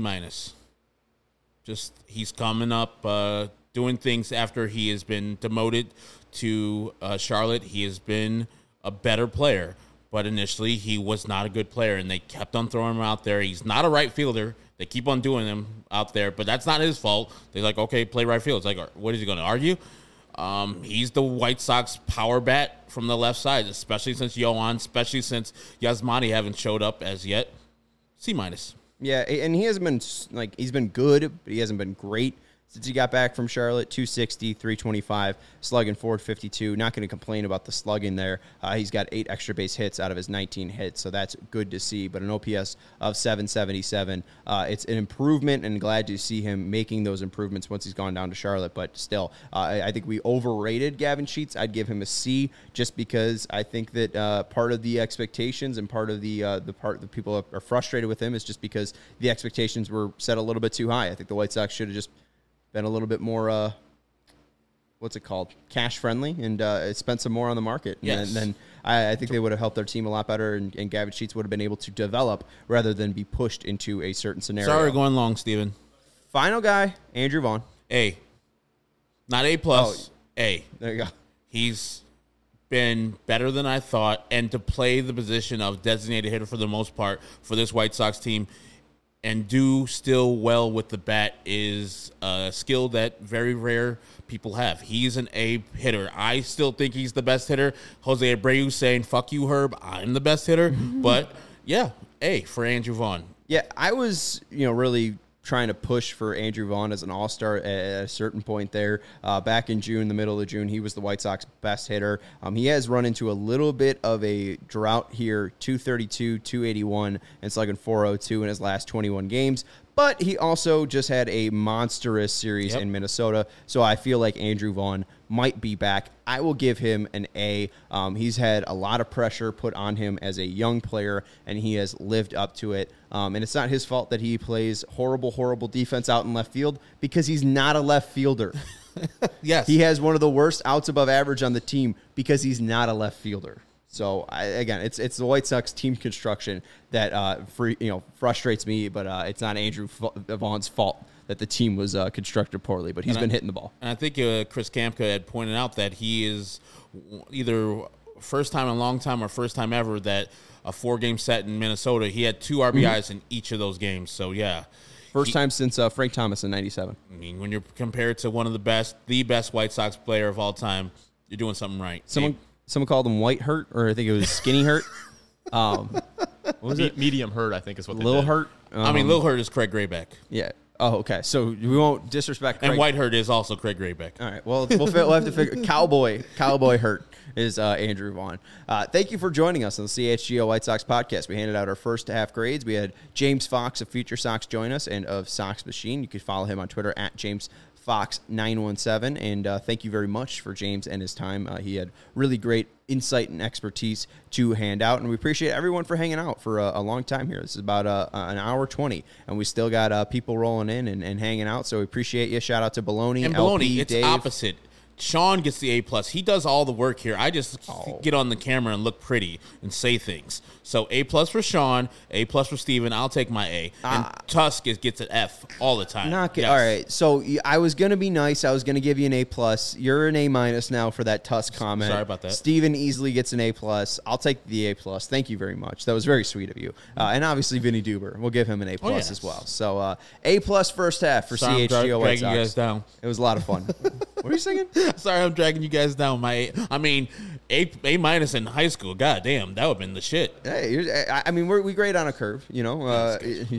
Just he's coming up, doing things after he has been demoted to Charlotte. He has been a better player. But initially, he was not a good player, and they kept on throwing him out there. He's not a right fielder. They keep on doing him out there, but that's not his fault. They're like, okay, play right field. It's like, what is he going to argue? He's the White Sox power bat from the left side, especially since Yohan, especially since Yasmani haven't showed up as yet. C-. Yeah, and he hasn't been he's been good, but he hasn't been great since he got back from Charlotte. 260, 325, slugging 452. Not going to complain about the slugging there. He's got 8 extra base hits out of his 19 hits, so that's good to see. But an OPS of 777. It's an improvement, and glad to see him making those improvements once he's gone down to Charlotte. But still, I think we overrated Gavin Sheets. I'd give him a C just because I think that part of the expectations and part of the part that people are frustrated with him is just because the expectations were set a little bit too high. I think the White Sox should have just been a little bit more, cash friendly, and spent some more on the market. Yes. And then I think they would have helped their team a lot better, and Gavin Sheets would have been able to develop rather than be pushed into a certain scenario. Sorry, going long, Steven. Final guy, Andrew Vaughn. A. Not A+. A. There you go. He's been better than I thought, and to play the position of designated hitter for the most part for this White Sox team and do still well with the bat is a skill that very rare people have. He's an A hitter. I still think he's the best hitter. Jose Abreu saying, fuck you, Herb, I'm the best hitter. But, yeah, A for Andrew Vaughn. Yeah, I was, really trying to push for Andrew Vaughn as an all-star at a certain point there. Back in June, the middle of June, he was the White Sox best hitter. He has run into a little bit of a drought here, 232, 281, and slugging 402 in his last 21 games. But he also just had a monstrous series in Minnesota, so I feel like Andrew Vaughn might be back. I will give him an A. He's had a lot of pressure put on him as a young player, and he has lived up to it. And it's not his fault that he plays horrible defense out in left field because he's not a left fielder. Yes. He has one of the worst outs above average on the team because he's not a left fielder. So, it's the White Sox team construction that frustrates me, but it's not Andrew Vaughn's fault that the team was constructed poorly, but he's been hitting the ball. And I think Chris Kamka had pointed out that he is either first time in a long time or first time ever that a 4-game set in Minnesota, he had 2 RBIs in each of those games. So, yeah. First time since Frank Thomas in 97. I mean, when you're compared to one of the best White Sox player of all time, you're doing something right. Someone called him White Hurt, or I think it was Skinny Hurt. What was it? Medium Hurt, I think is what they Lil did. Hurt? Lil Hurt is Craig Grayback. Yeah. Oh, okay. So we won't disrespect Craig. And White Hurt is also Craig Grayback. All right. Well, we'll have to figure. Cowboy Hurt is Andrew Vaughn. Thank you for joining us on the CHGO White Sox podcast. We handed out our first half grades. We had James Fox of Future Sox join us and of Sox Machine. You can follow him on Twitter at JamesFox917. And thank you very much for James and his time. He had really great insight and expertise to hand out, and we appreciate everyone for hanging out for a long time here. This is about an hour 20, and we still got people rolling in and hanging out, so we appreciate you. Shout out to Baloney, And Baloney, LP, it's Dave. opposite. Sean gets the A+. He does all the work here. I just get on the camera and look pretty and say things. So A+ for Sean, A+ for Steven. I'll take my A. And Tusk gets an F all the time. All right. So I was going to be nice. I was going to give you an A+. You're an A- now for that Tusk comment. Sorry about that. Steven easily gets an A+. I'll take the A+. Thank you very much. That was very sweet of you. And obviously Vinny Duber. We'll give him an A+ yes. as well. So A+ first half for Sorry, CHGO White dragging you guys Sox. down. It was a lot of fun. What are you singing? Sorry, I'm dragging you guys down. A- in high school. God damn, that would have been the shit. Hey, I mean, we grade on a curve, you know.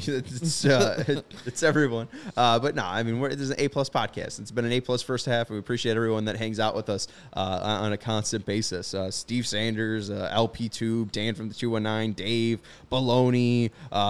It's everyone. But no, I mean, this is an A+ podcast. It's been an A+ first half. We appreciate everyone that hangs out with us on a constant basis. Steve Sanders, LP Tube, Dan from the 219, Dave, Baloney,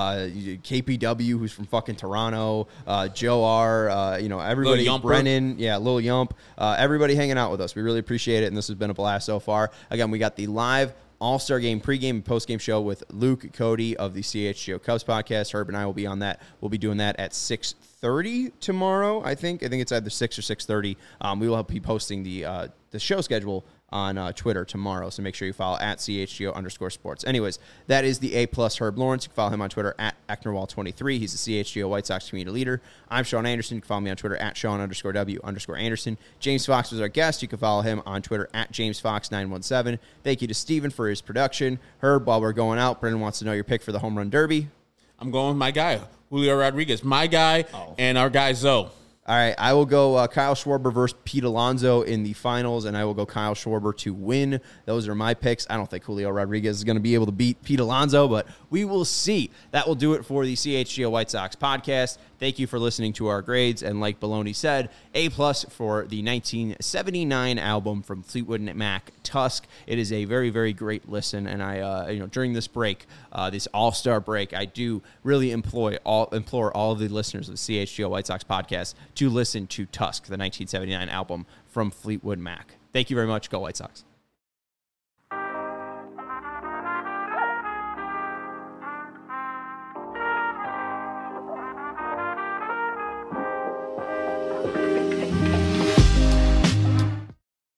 KPW, who's from fucking Toronto, Joe R, everybody, Lil Brennan, Lil Yump, everybody hanging out with us. We really appreciate it, and this has been a blast so far. Again, we got the live All-Star Game pregame and postgame show with Luke Cody of the CHGO Cubs podcast. Herb and I will be on that. We'll be doing that at 6:30 tomorrow, I think. I think it's either 6 or 6:30. We will be posting the show schedule on Twitter tomorrow, so make sure you follow at CHGO_sports. Anyways, that is the A+ Herb Lawrence. You can follow him on Twitter at Ecknerwall23. He's the CHGO White Sox community leader. I'm Sean Anderson. You can follow me on Twitter at Sean_W_Anderson. James Fox was our guest. You can follow him on Twitter at JamesFox917. Thank you to Steven for his production. Herb, while we're going out, Brendan wants to know your pick for the home run derby. I'm going with my guy, Julio Rodriguez. My guy and our guy, Zoe. All right, I will go Kyle Schwarber versus Pete Alonso in the finals, and I will go Kyle Schwarber to win. Those are my picks. I don't think Julio Rodriguez is going to be able to beat Pete Alonso, but we will see. That will do it for the CHGO White Sox podcast. Thank you for listening to our grades, and like Baloney said, A+ for the 1979 album from Fleetwood Mac, Tusk. It is a very, very great listen, and I, during this break, this All-Star break, I do really implore all of the listeners of the CHGO White Sox podcast to listen to Tusk, the 1979 album from Fleetwood Mac. Thank you very much. Go White Sox.